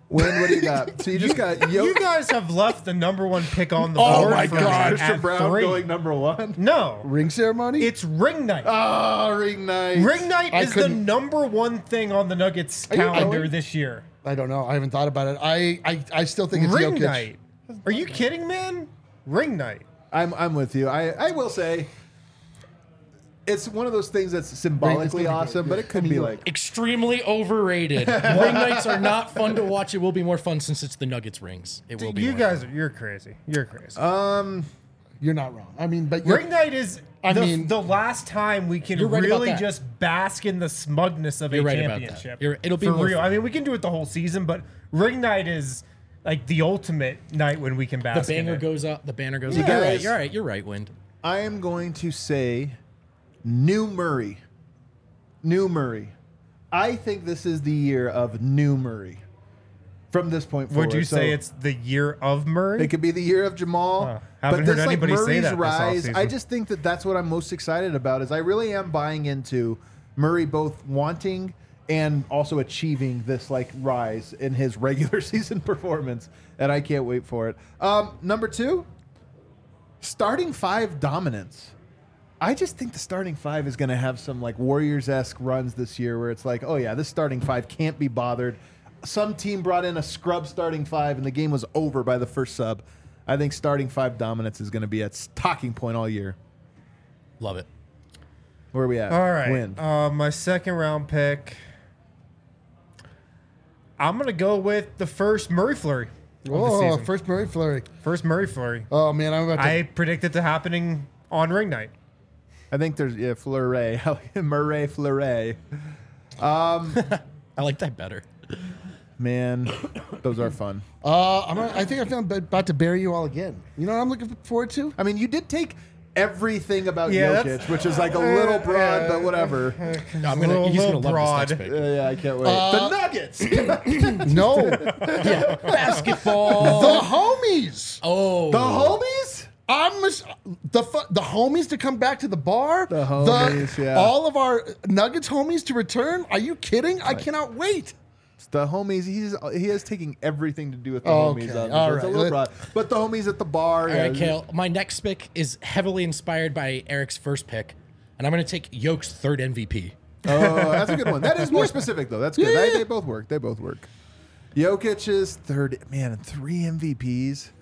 Win, what do you got? So you just got You Yo- guys have left the number one pick on the Oh board. my for me God. Christian at Brown three. going number one. No, Ring ceremony? it's ring night. Oh, ring night. Ring night I is the couldn't- number one thing on the Nuggets you calendar going? this year. I don't know. I haven't thought about it. I I, I still think it's Ring Jokic. night. Are you kidding, man? Ring night. I'm I'm with you. I, I will say it's one of those things that's symbolically gonna be awesome, good. but it could be like Extremely overrated. Ring nights are not fun to watch. It will be more fun since it's the Nuggets rings. It will be. You more guys, fun. are, you're crazy. You're crazy. um You're not wrong. I mean, but you're, Ring night is I the, mean- the last time we can You're right about really that. just bask in the smugness of You're a right about that. championship. You're- it'll be for more real. fun. I mean, we can do it the whole season, but ring night is like the ultimate night when we can The bask. in banner it. goes up. The banner goes You up. You're right. guys- You're right. You're right. Wind. I am going to say New Murray. New Murray. I think this is the year of New Murray. From this point forward. Would you say So it's the year of Murray? it could be the year of Jamal? Huh. Haven't heard anybody say that this rise. offseason. I just think that that's what I'm most excited about. Is I really am buying into Murray both wanting and also achieving this like rise in his regular season performance, and I can't wait for it. Um, number two, starting five dominance. I just think the starting five is going to have some like Warriors-esque runs this year, where it's like, oh yeah, this starting five can't be bothered. Some team brought in a scrub starting five, and the game was over by the first sub. I think starting five dominance is going to be at talking point all year. Love it. Where are we at? All right. Win. Uh, my second round pick. I'm gonna go with the first Murray flurry of the Oh, season. first Murray flurry. First Murray flurry. Oh man, I'm about to. I predict it to happening on ring night. I think there's yeah, Fleury, Murray Fleury. I like that better. Man, those are fun. uh, I'm. Gonna, I think I found about to bury you all again. You know what I'm looking forward to? I mean, you did take everything about Yeah, Jokic, that's- which is like a little broad, but whatever. I'm gonna. Little- he's gonna little love broad. this next pick. Yeah, yeah, I can't wait. Uh, the Nuggets, No, Basketball. the homies. Oh, the homies. I'm mis- the fu- the homies to come back to the bar. The homies, yeah. All of our Nuggets homies to return. Are you kidding? I cannot wait. It's the homies. He's he is taking everything to do with the Okay, homies. On all this. It's a right. little broad, but the homies at the bar. All yeah, right, Kale. My next pick is heavily inspired by Eric's first pick, and I'm going to take Yoke's third M V P. Oh, that's a good one. That is more specific though. That's good. Yeah, They, yeah. they both work. They both work. Jokic's third man, three M V Ps.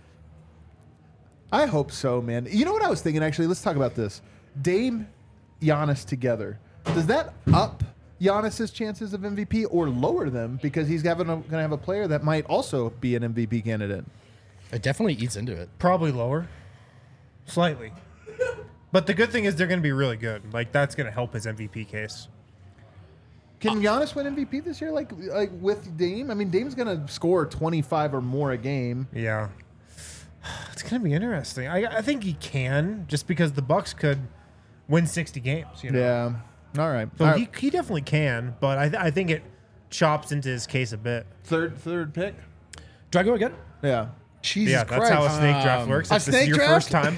I hope so, man. You know what I was thinking actually? Let's talk about this. Dame, Giannis together. Does that up Giannis's chances of M V P or lower them because he's having going to have a player that might also be an M V P candidate? It definitely eats into it. Probably lower, slightly. But the good thing is they're going to be really good. Like that's going to help his M V P case. Can Giannis win M V P this year? Like like with Dame? I mean, Dame's going to score twenty-five or more a game. Yeah, it's going to be interesting. I, I think he can, just because the Bucks could win sixty games. You know? Yeah. All right. So All right. he, he definitely can, but I, th- I think it chops into his case a bit. Third third pick. Do I go again? Yeah. Jesus yeah, that's Christ. how a snake draft Um, works. a If this is snake your draft? first time.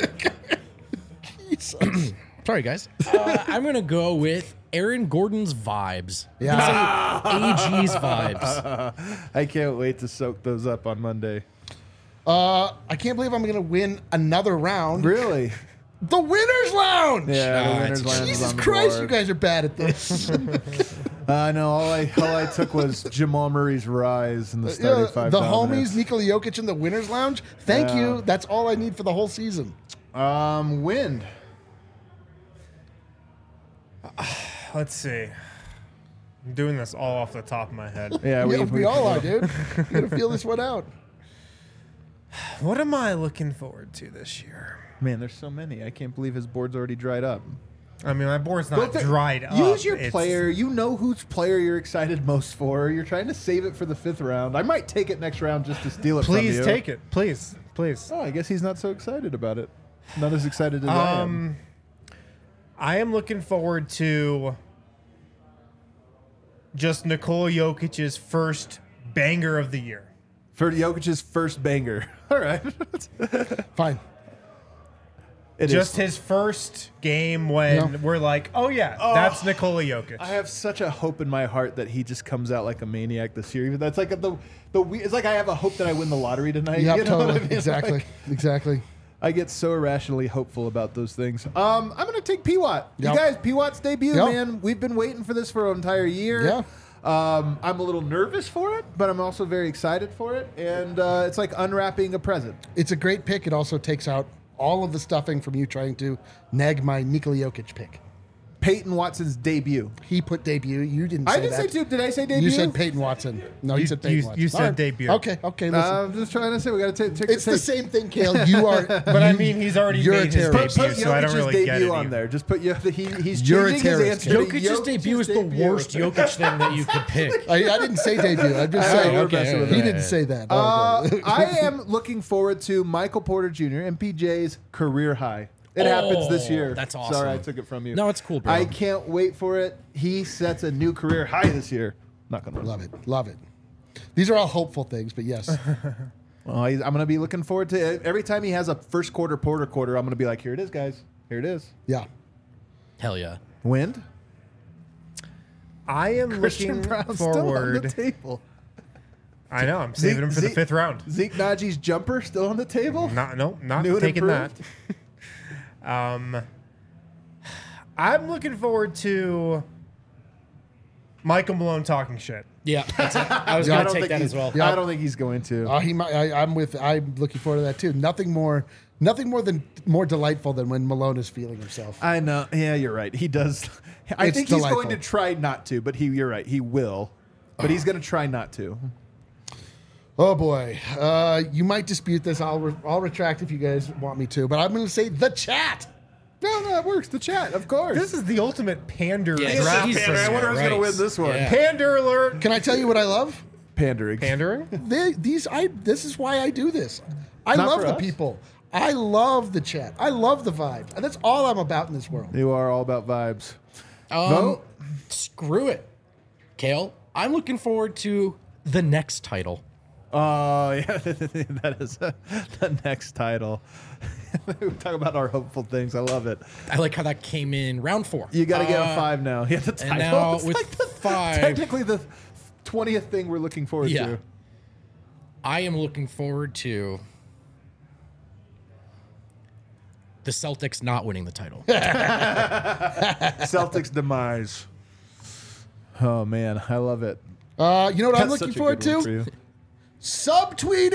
Jesus. Sorry, guys. Uh, I'm going to go with Aaron Gordon's vibes. Yeah. A G's vibes. I can't wait to soak those up on Monday. Uh, I can't believe I'm going to win another round. Really? The winners lounge. Yeah. Ah, the winners it's- lounge is Jesus on the Christ, board. you guys are bad at this. I know. All I all I took was Jamal Murray's rise in the starting Yeah, five. the dominance. homies, Nikola Jokic in the winners lounge. Thank Yeah. you. That's all I need for the whole season. Um, wind. Let's see. I'm doing this all off the top of my head. Yeah, We, we, all are, dude. You gotta feel this one out. What am I looking forward to this year? Man, there's so many. I can't believe his board's already dried up. I mean, my board's not Go th- dried up. Use your It's- player. You know whose player you're excited most for. You're trying to save it for the fifth round. I might take it next round just to steal it Please from you. take it. Please. Please. Oh, I guess he's not so excited about it. Not as excited as I am. Um, I am looking forward to just Nikola Jokic's first banger of the year. For Jokic's first banger. All right. Fine. It Just is. his first game when Yeah. we're like, oh yeah, that's Nikola Jokic. I have such a hope in my heart that he just comes out like a maniac this year. Even that's like the the we- it's like I have a hope that I win the lottery tonight. Yep, you know what totally. I mean? Exactly. Like, exactly. I get so irrationally hopeful about those things. Um, I'm gonna take P Watt. Yep. You guys, P Watt's debut, Yep. man. We've been waiting for this for an entire year. Yeah. Um, I'm a little nervous for it, but I'm also very excited for it, and uh, it's like unwrapping a present. It's a great pick. It also takes out all of the stuffing from you trying to nag my Nikola Jokic pick. Peyton Watson's debut. He put debut. You didn't say I didn't that. say two. Did I say debut? You said Peyton Watson. No, you, You- said Peyton you- Watson. you said All right. debut. Okay, okay, listen. Uh, I'm just trying to say we got to take. take it's take. the same thing, Kale. You are. But I mean, he's already You're a made his terrorist. debut, Put so I don't Jokic's really get debut it. on either. there. Just put you. He, he's You're a changing his terrorist. answer. to Jokic's debut is the debut. worst Jokic thing that you could pick. I, I didn't say debut. I'm just I know, saying. we're okay, messing with He it. didn't say that. Uh, Okay. I am looking forward to Michael Porter Junior M P J's career high. It happens this Oh, year. that's Sorry, awesome. I took it from you. No, it's cool, bro. I can't wait for it. He sets a new career high this year. Not gonna Love it. Love it. These are all hopeful things, but yes. Well, he's, I'm gonna be looking forward to it. Every time he has a first quarter Porter quarter, I'm gonna be like, here it is, guys. Here it is. Yeah. Hell yeah. Wind. I am Christian looking Brown still on the forward. table. I know. I'm saving Zeke- him for the Zeke- fifth round. Zeke Najee's jumper still on the table. Not no, not New and taking that. improved? Um, I'm looking forward to Michael Malone talking shit. Yeah, that's it. I was Yeah, I going don't to take think that he's- as well. Yeah. I don't think he's going to. Uh, he might. I, I'm with. I'm looking forward to that too. Nothing more. Nothing more than more delightful than when Malone is feeling himself. I know. Yeah, you're right. He does. I It's think he's delightful. going to try not to, but he. You're right. He will, but he's going to try not to. Oh boy, uh, you might dispute this. I'll re- I'll retract if you guys want me to, but I'm going to say the chat. No, no, that works. The chat, of course. This is the ultimate pander Yeah, draft. he's- for I me. wonder who's going to Right. win this one. Yeah. Pander alert. Can I tell you what I love? Pandering. Pandering. They, these I. This is why I do this. I Not love for the us. people. I love the chat. I love the vibe. And that's all I'm about in this world. You are all about vibes. Um, Vote. Screw it. Kale, I'm looking forward to the next title. Oh, yeah. That is uh, the next title. We talk about our hopeful things. I love it. I like how that came in round four. You got to get Uh, a five now. Yeah, the title. and now It's with like the- five- Technically, the twentieth thing we're looking forward Yeah. to. I am looking forward to the Celtics not winning the title. Celtics demise. Oh, man. I love it. Uh, you know what I'm That's looking such a forward good one to? for you. Subtweeting!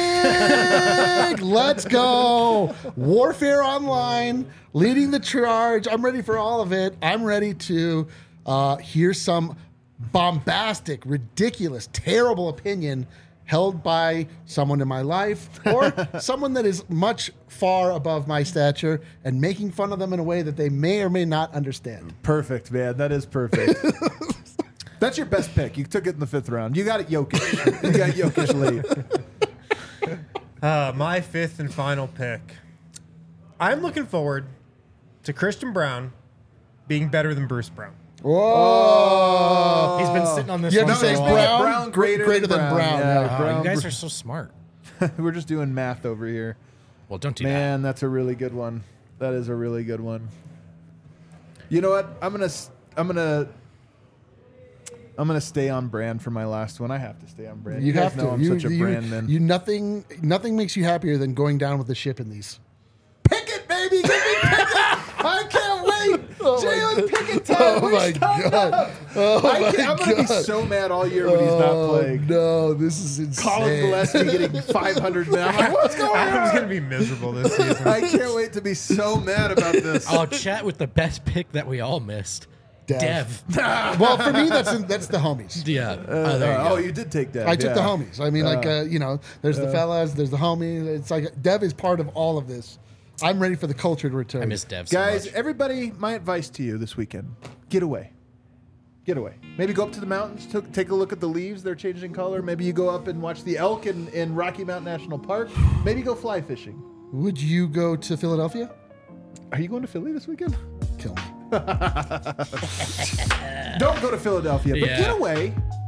Let's go! Warfare Online, leading the charge. I'm ready for all of it. I'm ready to uh, hear some bombastic, ridiculous, terrible opinion held by someone in my life or someone that is much far above my stature and making fun of them in a way that they may or may not understand. Perfect, man. That is perfect. That's your best pick. You took it in the fifth round. You got it, Jokic. You got Jokic lead. Uh, my fifth and final pick. I'm looking forward to Christian Brown being better than Bruce Brown. Whoa! He's been sitting on this You have one to for say a while. Brown, Brown greater, greater than, than Brown. Brown, Yeah, yeah. Oh, Brown. you guys are so smart. We're just doing math over here. Well, don't do Man, that's a really good one. That is a really good one. You know what? I'm gonna s- I'm gonna I'm gonna stay on brand for my last one. I have to stay on brand. You, guys have know to. I'm you, such a you, brand man. you nothing. Nothing makes you happier than going down with the ship in these. Pickett, baby, give me Pickett! I can't wait. Oh my Jalen God. Pickett time. Oh We my stopped God. up. Oh I my can't, I'm gonna be God. so mad all year when he's not Oh, playing. no, this is insane. Colin Gillespie getting five hundred minutes. I'm like, what's going Adam's on? gonna be miserable this season. I can't wait to be so mad about this. I'll chat with the best pick that we all missed. Dev. Dev. Well, for me, that's that's the homies. Yeah. Oh, there you Uh, go. oh, you did take that. I took the yeah. homies. I mean, like uh, you know, there's the fellas, there's the homies. It's like Dev is part of all of this. I'm ready for the culture to return. I miss Dev so Guys, much. everybody, my advice to you this weekend: get away, get away. Maybe go up to the mountains, to, take a look at the leaves; they're changing color. Maybe you go up and watch the elk in, in Rocky Mountain National Park. Maybe go fly fishing. Would you go to Philadelphia? Are you going to Philly this weekend? Kill me. Don't go to Philadelphia, but Yeah. get away.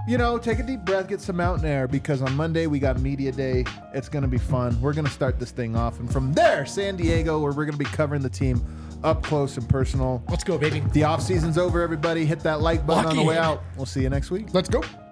you know, take a deep breath, get some mountain air, because on Monday we got Media Day. It's going to be fun. We're going to start this thing off. And from there, San Diego, where we're going to be covering the team up close and personal. Let's go, baby. The off season's over, everybody. Hit that like button Lock on the way in. out. We'll see you next week. Let's go.